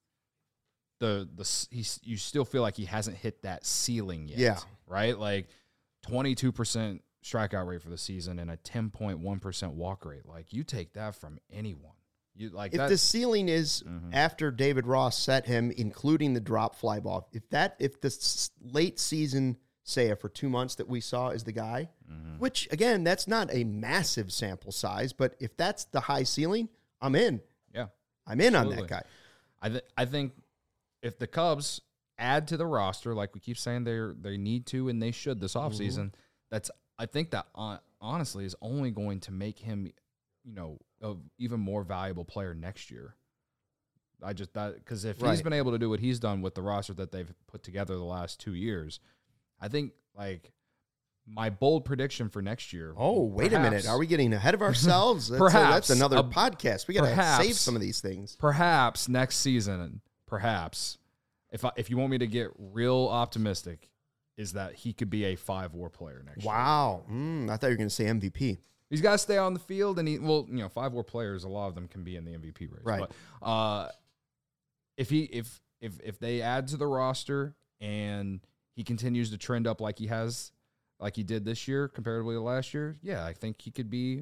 you still feel like he hasn't hit that ceiling yet. Yeah. Right? Like, 22% strikeout rate for the season and a 10.1% walk rate. Like, you take that from anyone. You like if that. the ceiling is after David Ross set him, including the drop fly ball, if the late season Seiya for 2 months that we saw is the guy, which, again, that's not a massive sample size, but if that's the high ceiling, I'm in. Yeah. I'm in Absolutely. on that guy. I think if the Cubs add to the roster, like we keep saying they need to and they should this offseason, I think that honestly is only going to make him, an even more valuable player next year. Because if Right. he's been able to do what he's done with the roster that they've put together the last 2 years, I think like my bold prediction for next year. Oh, wait a minute. perhaps- Are we getting ahead of ourselves? That's Perhaps. that's another podcast. We got to perhaps. save some of these things. Perhaps next season, if you want me to get real optimistic, is that he could be a 5-WAR player next year. Wow. I thought you were going to say MVP. He's got to stay on the field, and 5-WAR players, a lot of them can be in the MVP race. Right. But if they add to the roster and he continues to trend up like he did this year comparatively to last year, yeah, I think he could be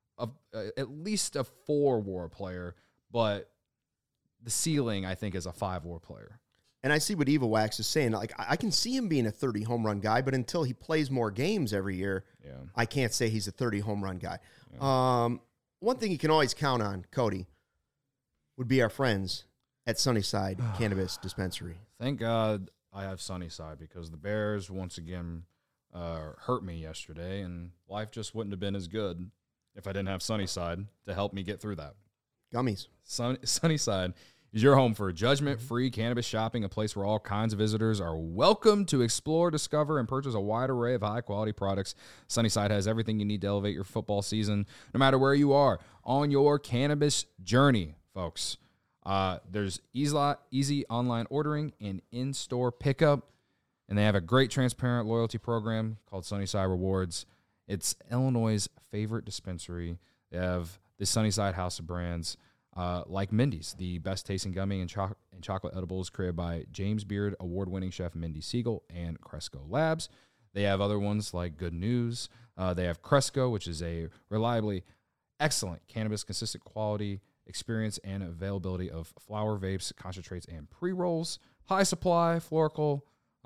at least a 4-WAR player, but the ceiling, I think, is a 5-WAR player. And I see what Eva Wax is saying. Like, I can see him being a 30 home run guy, but until he plays more games every year, I can't say he's a 30 home run guy. Yeah. One thing you can always count on, Cody, would be our friends at Sunnyside Cannabis Dispensary. Thank God I have Sunnyside, because the Bears once again hurt me yesterday, and life just wouldn't have been as good if I didn't have Sunnyside to help me get through that. Gummies. Sunnyside is your home for judgment-free cannabis shopping, a place where all kinds of visitors are welcome to explore, discover, and purchase a wide array of high-quality products. Sunnyside has everything you need to elevate your football season, no matter where you are on your cannabis journey, folks. There's easy online ordering and in-store pickup, and they have a great transparent loyalty program called Sunnyside Rewards. It's Illinois' favorite dispensary. They have the Sunnyside House of Brands, like Mindy's, the best-tasting gummy and chocolate edibles created by James Beard award-winning chef Mindy Siegel and Cresco Labs. They have other ones like Good News. They have Cresco, which is a reliably excellent cannabis, consistent quality, experience, and availability of flower, vapes, concentrates, and pre-rolls. High Supply, Florical,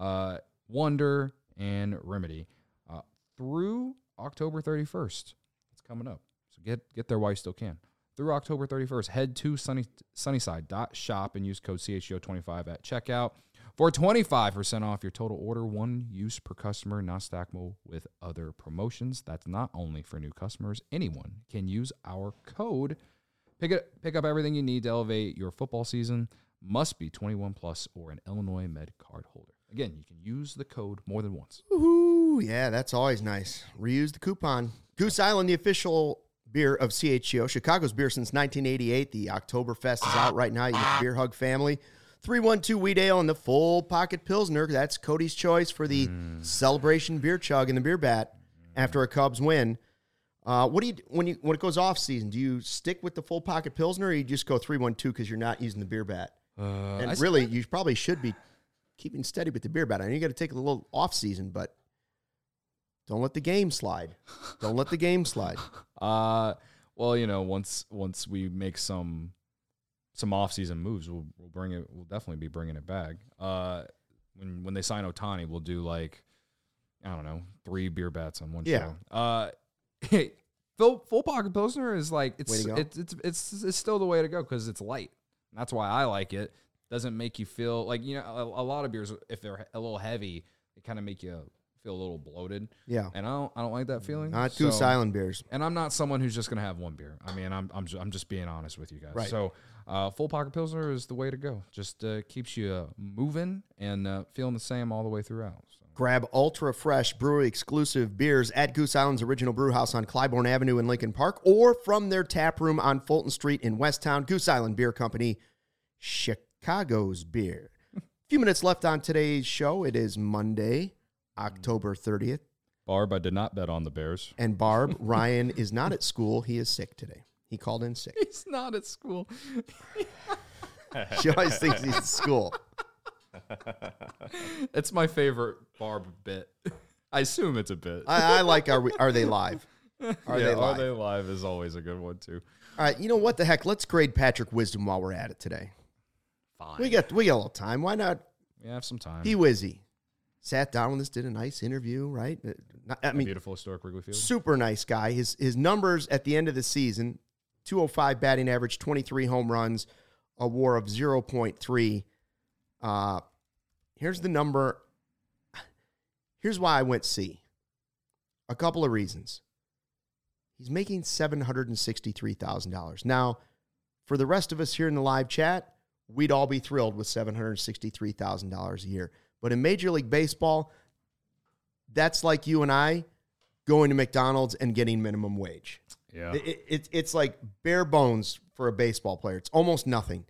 Wonder, and Remedy through October 31st. It's coming up. So get there while you still can. Through October 31st, head to sunnyside.shop and use code CHGO25 at checkout for 25% off your total order. One use per customer, not stackable with other promotions. That's not only for new customers. Anyone can use our code. Pick up everything you need to elevate your football season. Must be 21 plus or an Illinois Med card holder. Again, you can use the code more than once. Woohoo! Yeah, that's always nice. Reuse the coupon. Goose Island, the official beer of CHGO, Chicago's beer since 1988. The Oktoberfest is out right now. You get the Beer Hug family. 312 Wheat Ale and the Full Pocket Pilsner. That's Cody's choice for the celebration beer chug in the beer bat after a Cubs win. What do you when it goes off season? Do you stick with the Full Pocket Pilsner, or you just go 312 because you're not using the beer bat? And really, you probably should be keeping steady with the beer bat. I know you got to take a little off season, but don't let the game slide. Don't let the game slide. Well, once we make some off-season moves, we'll bring it. We'll definitely be bringing it back. When they sign Ohtani, we'll do 3 beer bats on one show. Full Pocket Pilsner is it's still the way to go because it's light. That's why I like it. Doesn't make you feel like a lot of beers, if they're a little heavy, they kind of make you feel a little bloated. Yeah, and I don't like that feeling. Not Goose Island beers. And I'm not someone who's just gonna have one beer. I mean, I'm just being honest with you guys. Right. So, Full Pocket Pilsner is the way to go. Just keeps you moving and feeling the same all the way throughout. So. Grab ultra fresh brewery exclusive beers at Goose Island's original brew house on Clybourne Avenue in Lincoln Park, or from their tap room on Fulton Street in Westtown. Goose Island Beer Company, Chicago's beer. A few minutes left on today's show. It is Monday, October 30th. Barb, I did not bet on the Bears. And Barb, Ryan is not at school. He is sick today. He called in sick. He's not at school. She always thinks he's at school. It's my favorite Barb bit. I assume it's a bit. I like Are They Live? Are They Live is always a good one, too. All right, you know what the heck? Let's grade Patrick Wisdom while we're at it today. Fine. We got a little time. Why not? We have some time. P-Wizzy sat down with us, did a nice interview, right? Beautiful historic Wrigley Field. Super nice guy. His numbers at the end of the season, 205 batting average, 23 home runs, a WAR of 0.3. Here's the number. Here's why I went C. A couple of reasons. He's making $763,000. Now, for the rest of us here in the live chat, we'd all be thrilled with $763,000 a year. But in Major League Baseball, that's like you and I going to McDonald's and getting minimum wage. Yeah. It's like bare bones for a baseball player. It's almost nothing.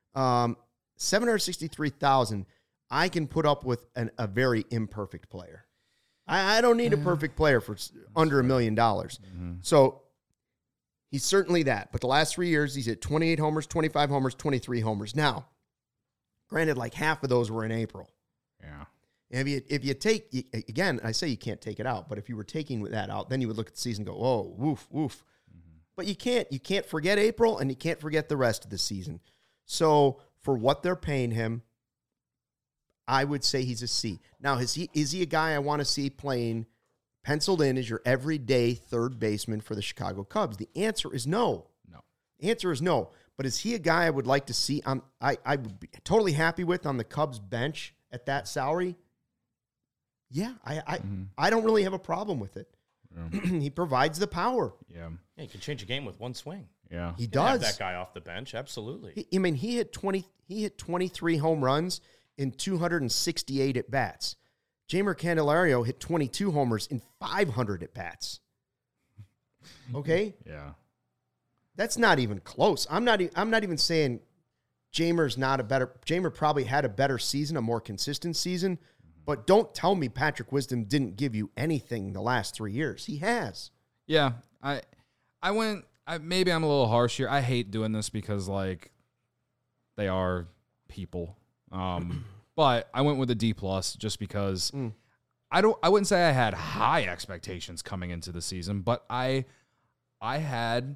$763,000, I can put up with a very imperfect player. I don't need a perfect player for under $1 million. Mm-hmm. So he's certainly that. But the last 3 years, he's hit 28 homers, 25 homers, 23 homers. Now, granted, like half of those were in April. Yeah. If you take, again, I say you can't take it out, but if you were taking that out, then you would look at the season and go, whoa, woof, woof. Mm-hmm. But you can't forget April, and you can't forget the rest of the season. So for what they're paying him, I would say he's a C. Now, is he a guy I want to see playing penciled in as your everyday third baseman for the Chicago Cubs? The answer is no. No. The answer is no. But is he a guy I would like to see? I would be totally happy with on the Cubs bench at that salary. Yeah, I don't really have a problem with it. Yeah. He provides the power. Yeah, you can change a game with one swing. Yeah, he does. Have that guy off the bench, absolutely. He hit 23 home runs in 268 at bats. Jeimer Candelario hit 22 homers in 500 at bats. Okay. Yeah, that's not even close. I'm not even saying Jeimer probably had a better season, a more consistent season. But don't tell me Patrick Wisdom didn't give you anything the last 3 years. He has. Yeah, maybe I'm a little harsh here. I hate doing this because like they are people. But I went with a D+ just because I wouldn't say I had high expectations coming into the season, but I had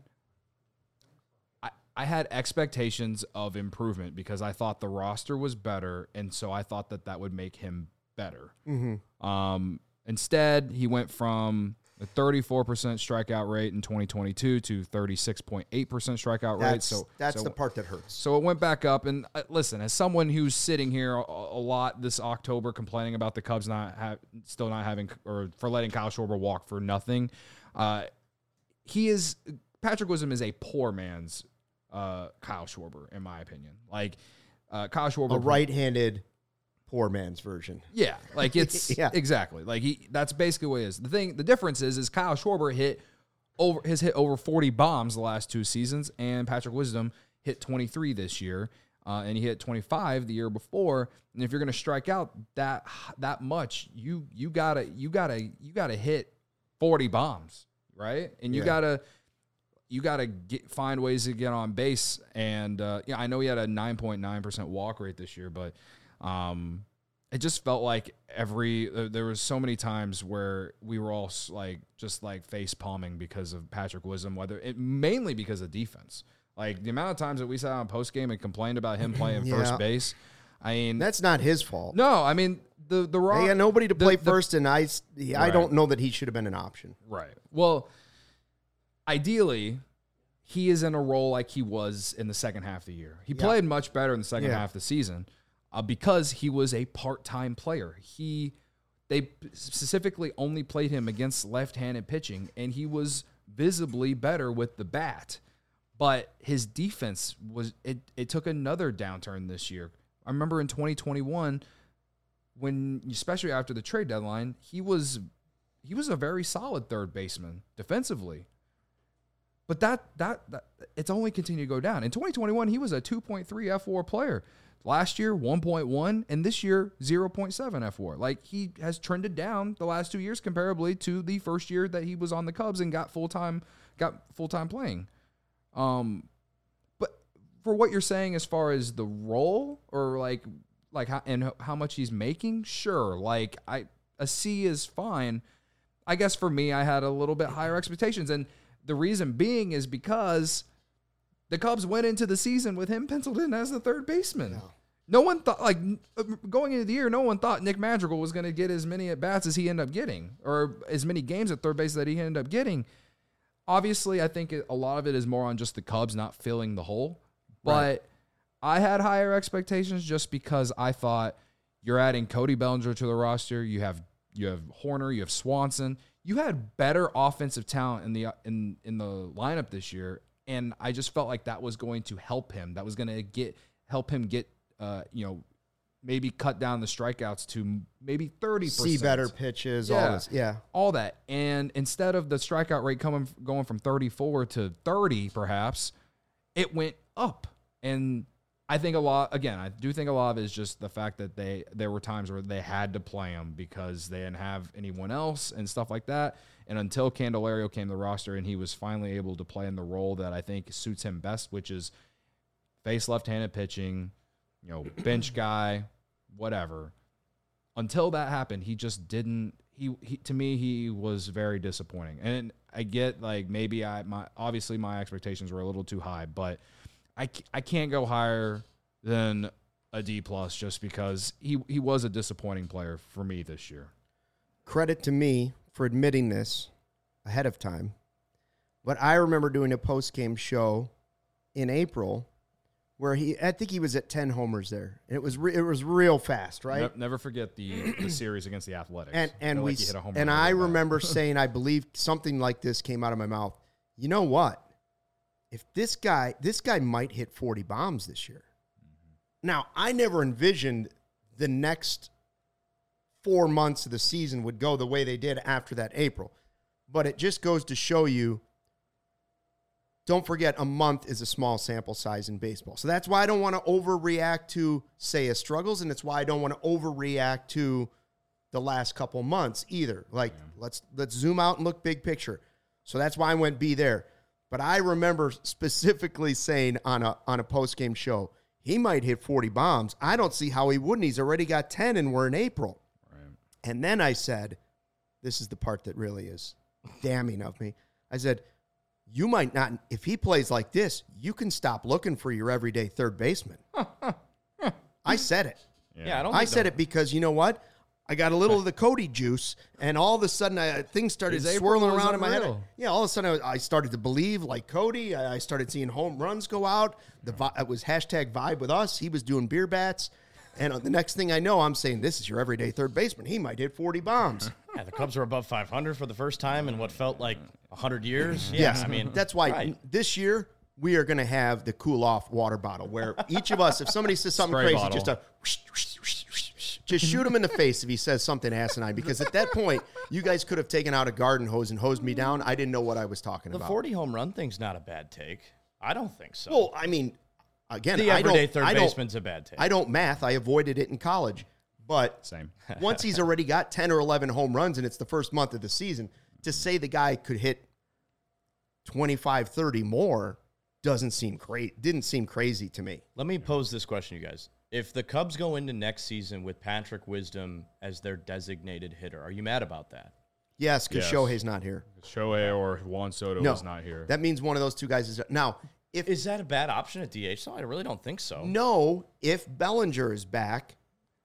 expectations of improvement because I thought the roster was better, and so I thought that would make him better. Mm-hmm. Instead, he went from a 34% strikeout rate in 2022 to 36.8% strikeout rate. So that's the part that hurts. So it went back up. And listen, as someone who's sitting here a lot this October complaining about the Cubs still not having or for letting Kyle Schwarber walk for nothing, Patrick Wisdom is a poor man's Kyle Schwarber, in my opinion. Like Kyle Schwarber, a right-handed poor man's version. Yeah, like it's exactly like that's basically what it is. The difference is Kyle Schwarber has hit over 40 bombs the last 2 seasons, and Patrick Wisdom hit 23 this year, and he hit 25 the year before. And if you're going to strike out that much, you gotta hit 40 bombs, right? And you gotta find ways to get on base. And I know he had a 9.9% walk rate this year, but it just felt like there was so many times where we were all just face palming because of Patrick Wisdom, mainly because of defense. Like the amount of times that we sat on post game and complained about him playing first base. I mean, that's not his fault. No, I mean they had nobody to play first, and I don't know that he should have been an option. Right. Well, ideally, he is in a role like he was in the second half of the year. He played much better in the second half of the season. Because he was a part-time player. They specifically only played him against left-handed pitching, and he was visibly better with the bat. But his defense it took another downturn this year. I remember in 2021, especially after the trade deadline, he was a very solid third baseman defensively. But that it's only continued to go down. In 2021, he was a 2.3 F4 player. Last year, 1.1, and this year, 0.7 F4. Like, he has trended down the last 2 years comparably to the first year that he was on the Cubs and got full-time playing. But for what you're saying as far as the role or how much he's making, sure. Like, a C is fine. I guess for me, I had a little bit higher expectations, and the reason being is because the Cubs went into the season with him penciled in as the third baseman. No one thought, going into the year, no one thought Nick Madrigal was going to get as many at-bats as he ended up getting, or as many games at third base that he ended up getting. Obviously, I think a lot of it is more on just the Cubs not filling the hole. But I had higher expectations just because I thought you're adding Cody Bellinger to the roster. You have Horner, you have Swanson. You had better offensive talent in the lineup this year. And I just felt like that was going to help him. That was going to get help him get, maybe cut down the strikeouts to maybe 30%. See better pitches, all this. Yeah. All that. And instead of the strikeout rate going from 34 to 30, perhaps, it went up. And I think I do think a lot of it is just the fact that there were times where they had to play him because they didn't have anyone else and stuff like that. And until Candelario came to the roster and he was finally able to play in the role that I think suits him best, which is face left-handed pitching, bench guy, whatever. Until that happened, he just didn't. He to me, he was very disappointing. And I get maybe obviously my expectations were a little too high, but I can't go higher than a D+ just because he was a disappointing player for me this year. Credit to me for admitting this ahead of time. But I remember doing a post-game show in April where I think he was at 10 homers there. And it was real fast, right? Never forget the series against the Athletics. And I remember saying, I believe something like this came out of my mouth. You know what? If this guy might hit 40 bombs this year. Mm-hmm. Now, I never envisioned the next 4 months of the season would go the way they did after that April. But it just goes to show you, don't forget, a month is a small sample size in baseball. So that's why I don't want to overreact to Seiya's struggles, and it's why I don't want to overreact to the last couple months either. Let's zoom out and look big picture. So that's why I went B there. But I remember specifically saying on a post-game show, he might hit 40 bombs. I don't see how he wouldn't. He's already got 10, and we're in April. Right. And then I said, this is the part that really is damning of me. I said, you might not, if he plays like this, you can stop looking for your everyday third baseman. I said it. Yeah, I said it because you know what? I got a little of the Cody juice, and all of a sudden things started swirling around in my head. Yeah, all of a sudden I started to believe like Cody. I started seeing home runs go out. It was hashtag vibe with us. He was doing beer bats. And the next thing I know, I'm saying, this is your everyday third baseman. He might hit 40 bombs. Yeah, the Cubs were above 500 for the first time in what felt like 100 years. Yes, I mean, that's why this year we are going to have the cool-off water bottle where each of us, if somebody says something Spray crazy, bottle. just shoot him in the face if he says something asinine. Because at that point, you guys could have taken out a garden hose and hosed me down. I didn't know what I was talking about. The 40 home run thing's not a bad take. I don't think so. Well, I mean, again, the everyday third baseman's a bad take. I don't math. I avoided it in college. But same. Once he's already got 10 or 11 home runs and it's the first month of the season, to say the guy could hit 25, 30 more didn't seem crazy to me. Let me pose this question, you guys. If the Cubs go into next season with Patrick Wisdom as their designated hitter, are you mad about that? Yes, because Shohei's not here. Shohei or Juan Soto is not here. That means one of those two guys is... Now, is that a bad option at DH? No, I really don't think so. No, if Bellinger is back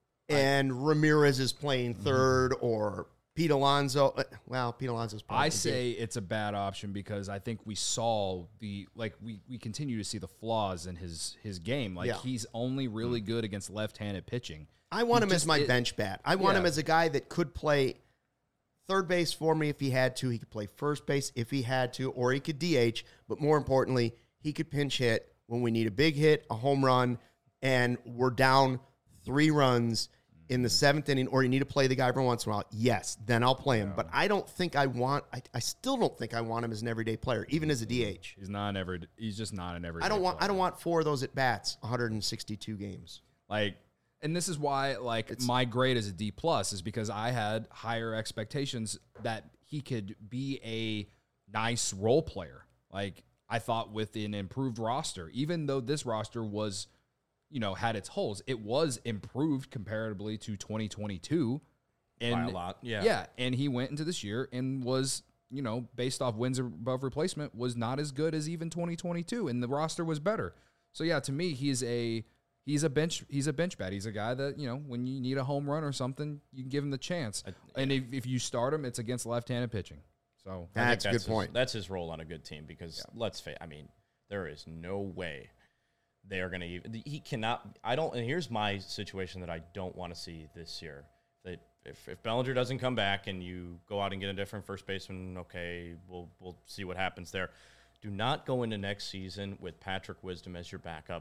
and Ramirez is playing third or Pete Alonso... Well, Pete Alonso's probably... I say it's a bad option because I think we saw we continue to see the flaws in his game. He's only really good against left-handed pitching. I want him as my bench bat. I want him as a guy that could play third base for me if he had to. He could play first base if he had to, or he could DH. But more importantly, he could pinch hit when we need a big hit, a home run, and we're down 3 runs in the 7th inning, or you need to play the guy every once in a while. Yes, then I'll play him. But I don't think I still don't think I want him as an everyday player, even as a DH. He's just not an everyday I don't player. want 4 of those at bats, 162 games. And this is why, my grade as a D+ is because I had higher expectations that he could be a nice role player. I thought with an improved roster, even though this roster was, had its holes, it was improved comparatively to 2022. And by a lot, yeah. Yeah, and he went into this year and was, based off wins above replacement, was not as good as even 2022, and the roster was better. So, yeah, to me, he's a bench bat. He's a guy that, when you need a home run or something, you can give him the chance. And if you start him, it's against left-handed pitching. So that's a good point. That's his role on a good team because let's face, there is no way they are going to. He cannot. And here's my situation that I don't want to see this year. That if Bellinger doesn't come back and you go out and get a different first baseman, okay, we'll see what happens there. Do not go into next season with Patrick Wisdom as your backup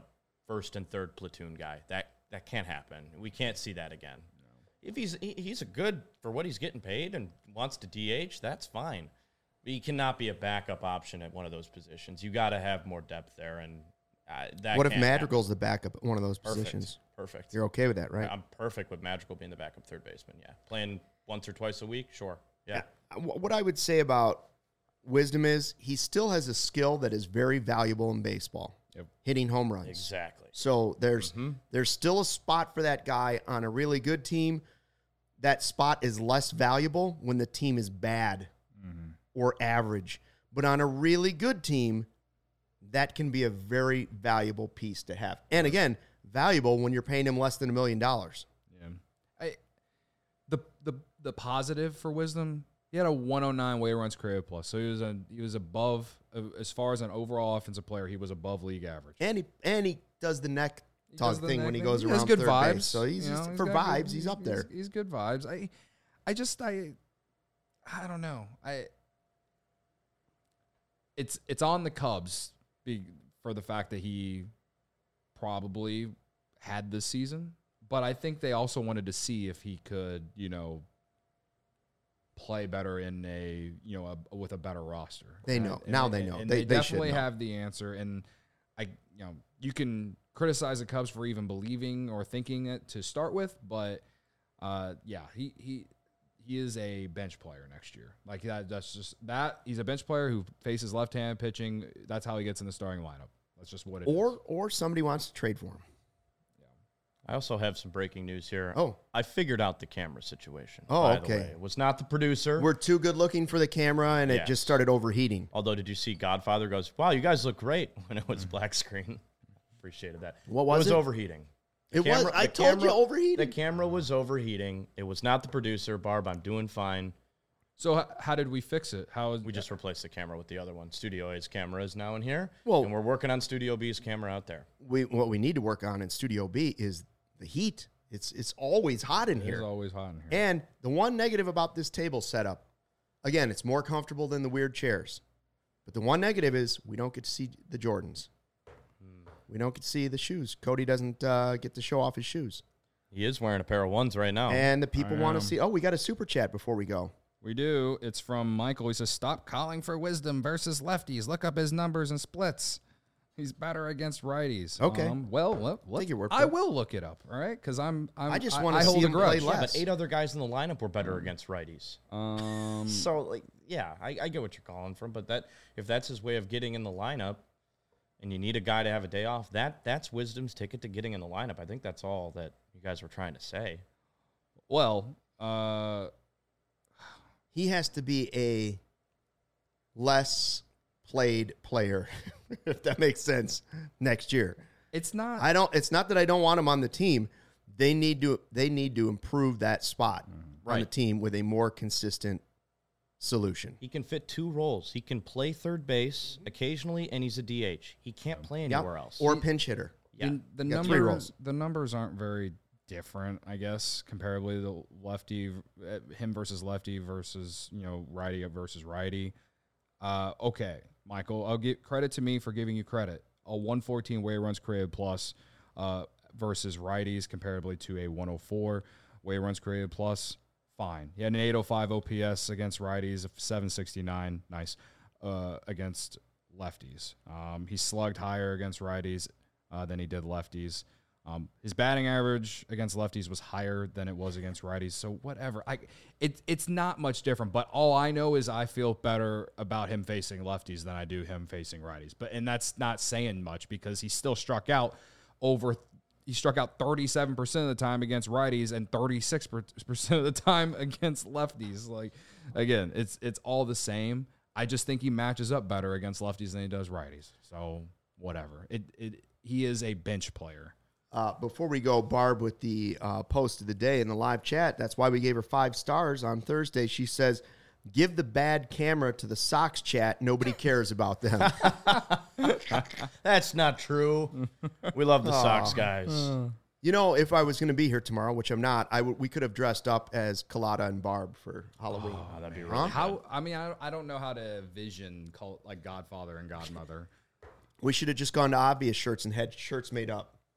first and third platoon guy. That can't happen. We can't see that again. No. If he's a good for what he's getting paid and wants to DH, that's fine. But he cannot be a backup option at one of those positions. You got to have more depth there, and that. What if Madrigal's the backup at one of those Perfect. positions? Perfect. You're okay with that, right? I'm perfect with Madrigal being the backup third baseman. Yeah, playing once or twice a week, sure. Yeah. What I would say about Wisdom is he still has a skill that is very valuable in baseball. Yep. Hitting home runs. Exactly. So there's still a spot for that guy on a really good team. That spot is less valuable when the team is bad or average. But on a really good team, that can be a very valuable piece to have. And again, valuable when you're paying him less than $1 million. Yeah. The positive for Wisdom, he had a 109 weighted runs created plus. So he was above, as far as an overall offensive player, he was above league average. And he does the neck tug thing when he goes around has good third vibes. base. So he's just, for vibes, he's up there. He's good vibes. I don't know. It's on the Cubs for the fact that he probably had this season, but I think they also wanted to see if he could, play better in with a better roster. They know. Now they know. And they definitely should know. have the answer. And you can criticize the Cubs for even believing or thinking it to start with, but he is a bench player next year. Like that's just that he's a bench player who faces left-hand pitching. That's how he gets in the starting lineup. That's just what it is. Or somebody wants to trade for him. I also have some breaking news here. Oh. I figured out the camera situation. Oh, by okay. The way. It was not the producer. We're too good looking for the camera, and it just started overheating. Although, did you see Godfather goes, wow, you guys look great when it was black screen. Appreciated that. What was it? It was overheating. I told you overheating. The camera was overheating. It was not the producer. Barb, I'm doing fine. So how did we fix it? We just replaced the camera with the other one. Studio A's camera is now in here, Well, and we're working on Studio B's camera out there. What we need to work on in Studio B is the heat. It's always hot in here. It's always hot in here. And the one negative about this table setup, again, it's more comfortable than the weird chairs. But the one negative is we don't get to see the Jordans. We don't get to see the shoes. Cody doesn't get to show off his shoes. He is wearing a pair of ones right now. And the people want to see. Oh, we got a super chat before we go. We do. It's from Michael. He says, stop calling for Wisdom versus lefties. Look up his numbers and splits. He's better against righties. Okay. Take your word for it. I will look it up, all right? Because I just want to see him play less. Yeah, but 8 other guys in the lineup were better against righties. So, I get what you're calling from, but if that's his way of getting in the lineup and you need a guy to have a day off, that's Wisdom's ticket to getting in the lineup. I think that's all that you guys were trying to say. Well, he has to be a less played player, if that makes sense, next year. It's not. It's not that I don't want him on the team. They need to improve that spot on the team with a more consistent solution. He can fit 2 roles. He can play third base occasionally, and he's a DH. He can't play anywhere else. Or pinch hitter. Yeah. The numbers aren't very different, I guess, comparably to lefty, him versus lefty versus, righty versus righty. Okay, Michael, I'll give credit to me for giving you credit. A 114 weighted runs created plus versus righties comparably to a 104 weighted runs created plus, fine. He had an 805 OPS against righties, 769, nice, against lefties. He slugged higher against righties than he did lefties. His batting average against lefties was higher than it was against righties. So whatever. It's not much different, but all I know is I feel better about him facing lefties than I do him facing righties. And that's not saying much because he still struck out 37% of the time against righties and 36% of the time against lefties. Like, again, it's all the same. I just think he matches up better against lefties than he does righties. So whatever. He is a bench player. Before we go, Barb, with the post of the day in the live chat, that's why we gave her 5 stars on Thursday. She says, give the bad camera to the Sox chat. Nobody cares about them. That's not true. We love the Sox guys. If I was going to be here tomorrow, which I'm not, we could have dressed up as Colada and Barb for Halloween. Oh, that'd be really I don't know how to vision like Godfather and Godmother. We should have just gone to obvious shirts and had shirts made up.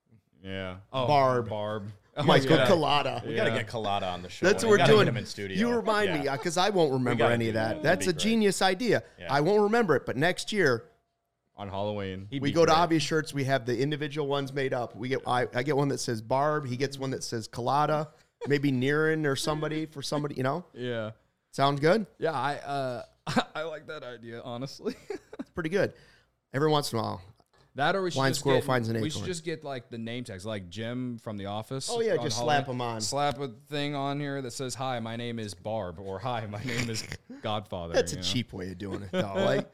Yeah. Barb. Michael Collada. We got to get Collada on the show. That's what We we're gotta doing. get him in studio. You remind me, because I won't remember gotta any of do that. that. That's a That'd be great. genius idea. Yeah. I won't remember it, but next year On Halloween. He'd we be go to great. Obvious Shirts. We have the individual ones made up. I get one that says Barb. He gets one that says Collada. Maybe Niren or somebody for somebody. Yeah. Sounds good. Yeah. I like that idea, honestly. It's pretty good. Every once in a while. That or we should Blind just squirrel get, finds an we acorn. should just get like the name tags, like Jim from The Office. Oh, yeah, on just Halloween. slap 'em on. Slap a thing on here that says, "Hi, my name is Barb," or "Hi, my name is Godfather." That's a cheap way of doing it, though.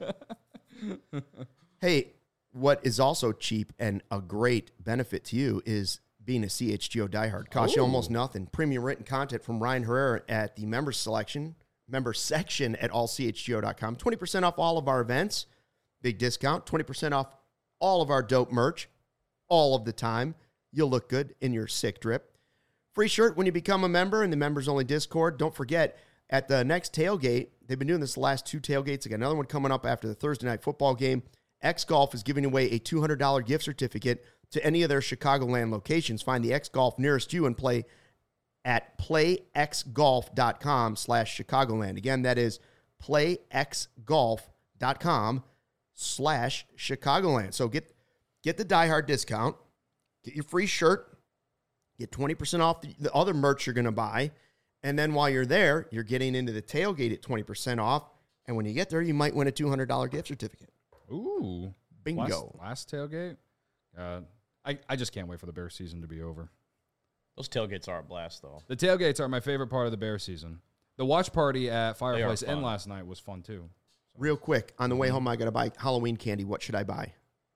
Hey, what is also cheap and a great benefit to you is being a CHGO diehard. Costs you almost nothing. Premium written content from Ryan Herrera at the member section at allchgo.com. 20% off all of our events. Big discount. 20% off all of our dope merch all of the time. You'll look good in your sick drip. Free shirt when you become a member in the members-only Discord. Don't forget, at the next tailgate, they've been doing this the last 2 tailgates. They got another one coming up after the Thursday night football game. X Golf is giving away a $200 gift certificate to any of their Chicagoland locations. Find the X Golf nearest you and play at playxgolf.com/Chicagoland. Again, that is playxgolf.com/Chicagoland. So get the diehard discount, get your free shirt, get 20% off the other merch you're going to buy, and then while you're there, you're getting into the tailgate at 20% off, and when you get there, you might win a $200 gift certificate. Ooh. Bingo. Last tailgate? I just can't wait for the Bear season to be over. Those tailgates are a blast, though. The tailgates are my favorite part of the Bear season. The watch party at Fireplace fun. Inn last night was fun, too. Real quick, on the way home, I got to buy Halloween candy. What should I buy?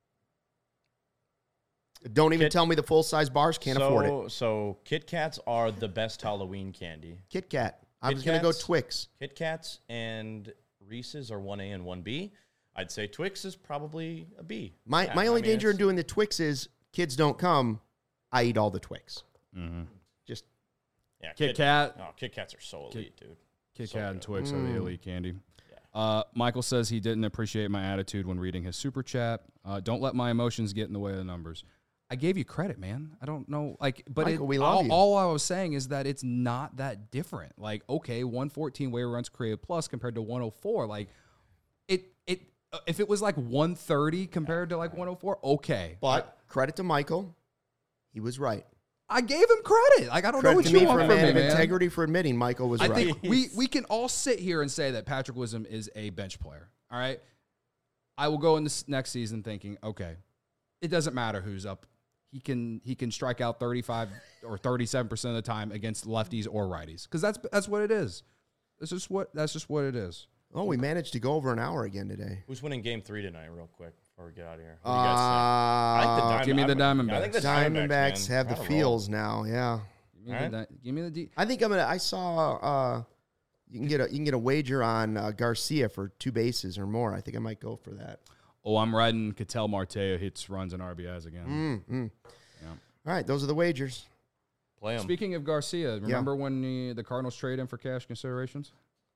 Don't even tell me the full-size bars. Can't afford it. So Kit Kats are the best Halloween candy. Kit Kat. I Kit was going to go Kats? Twix. Kit Kats and Reese's are 1A and 1B. I'd say Twix is probably a B. My Yeah, only I mean, danger in it's- doing the Twix is kids don't come. I eat all the Twix. Mm-hmm. Just Yeah, Kit Kat. Oh, Kit Kats are so elite, dude. Kit So Kat and good. Twix are the elite candy. Yeah. Michael says he didn't appreciate my attitude when reading his super chat. Don't let my emotions get in the way of the numbers. I gave you credit, man. I don't know, but Michael, we love you. all I was saying is that it's not that different. Like, okay, 114 waiver runs created plus compared to 104. Like, if it was like 130 compared to like 104, okay. But credit to Michael. He was right. I gave him credit. Like, I don't know Credit what to you me want for a from man me, of man. integrity for admitting Michael was I right. think we can all sit here and say that Patrick Wisdom is a bench player. All right. I will go in this next season thinking, okay, it doesn't matter who's up. He can strike out 35 or 37% of the time against lefties or righties, because that's what it is. That's just what it is. Oh, we managed to go over an hour again today. Who's winning Game 3 tonight, real quick, before we get out of here? What do you guys think? Give me the Diamondbacks. I think the Diamondbacks man. have the Gotta roll. feels now. Yeah. Give me the D. I think I saw you can get a wager on Garcia for 2 bases or more. I think I might go for that. Oh, I'm riding Ketel Marte hits runs and RBIs again. Yeah. All right, those are the wagers. Play 'em. Speaking of Garcia, remember when the Cardinals trade him for cash considerations?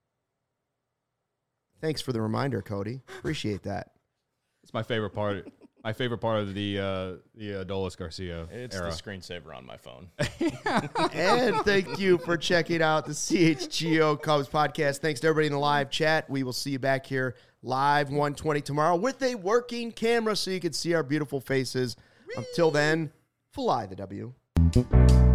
Thanks for the reminder, Cody. Appreciate that. It's my favorite part. My favorite part of the Adolis Garcia It's era. the screensaver on my phone. And thank you for checking out the CHGO Cubs podcast. Thanks to everybody in the live chat. We will see you back here live 1:20 tomorrow with a working camera so you can see our beautiful faces. Until then, fly the W.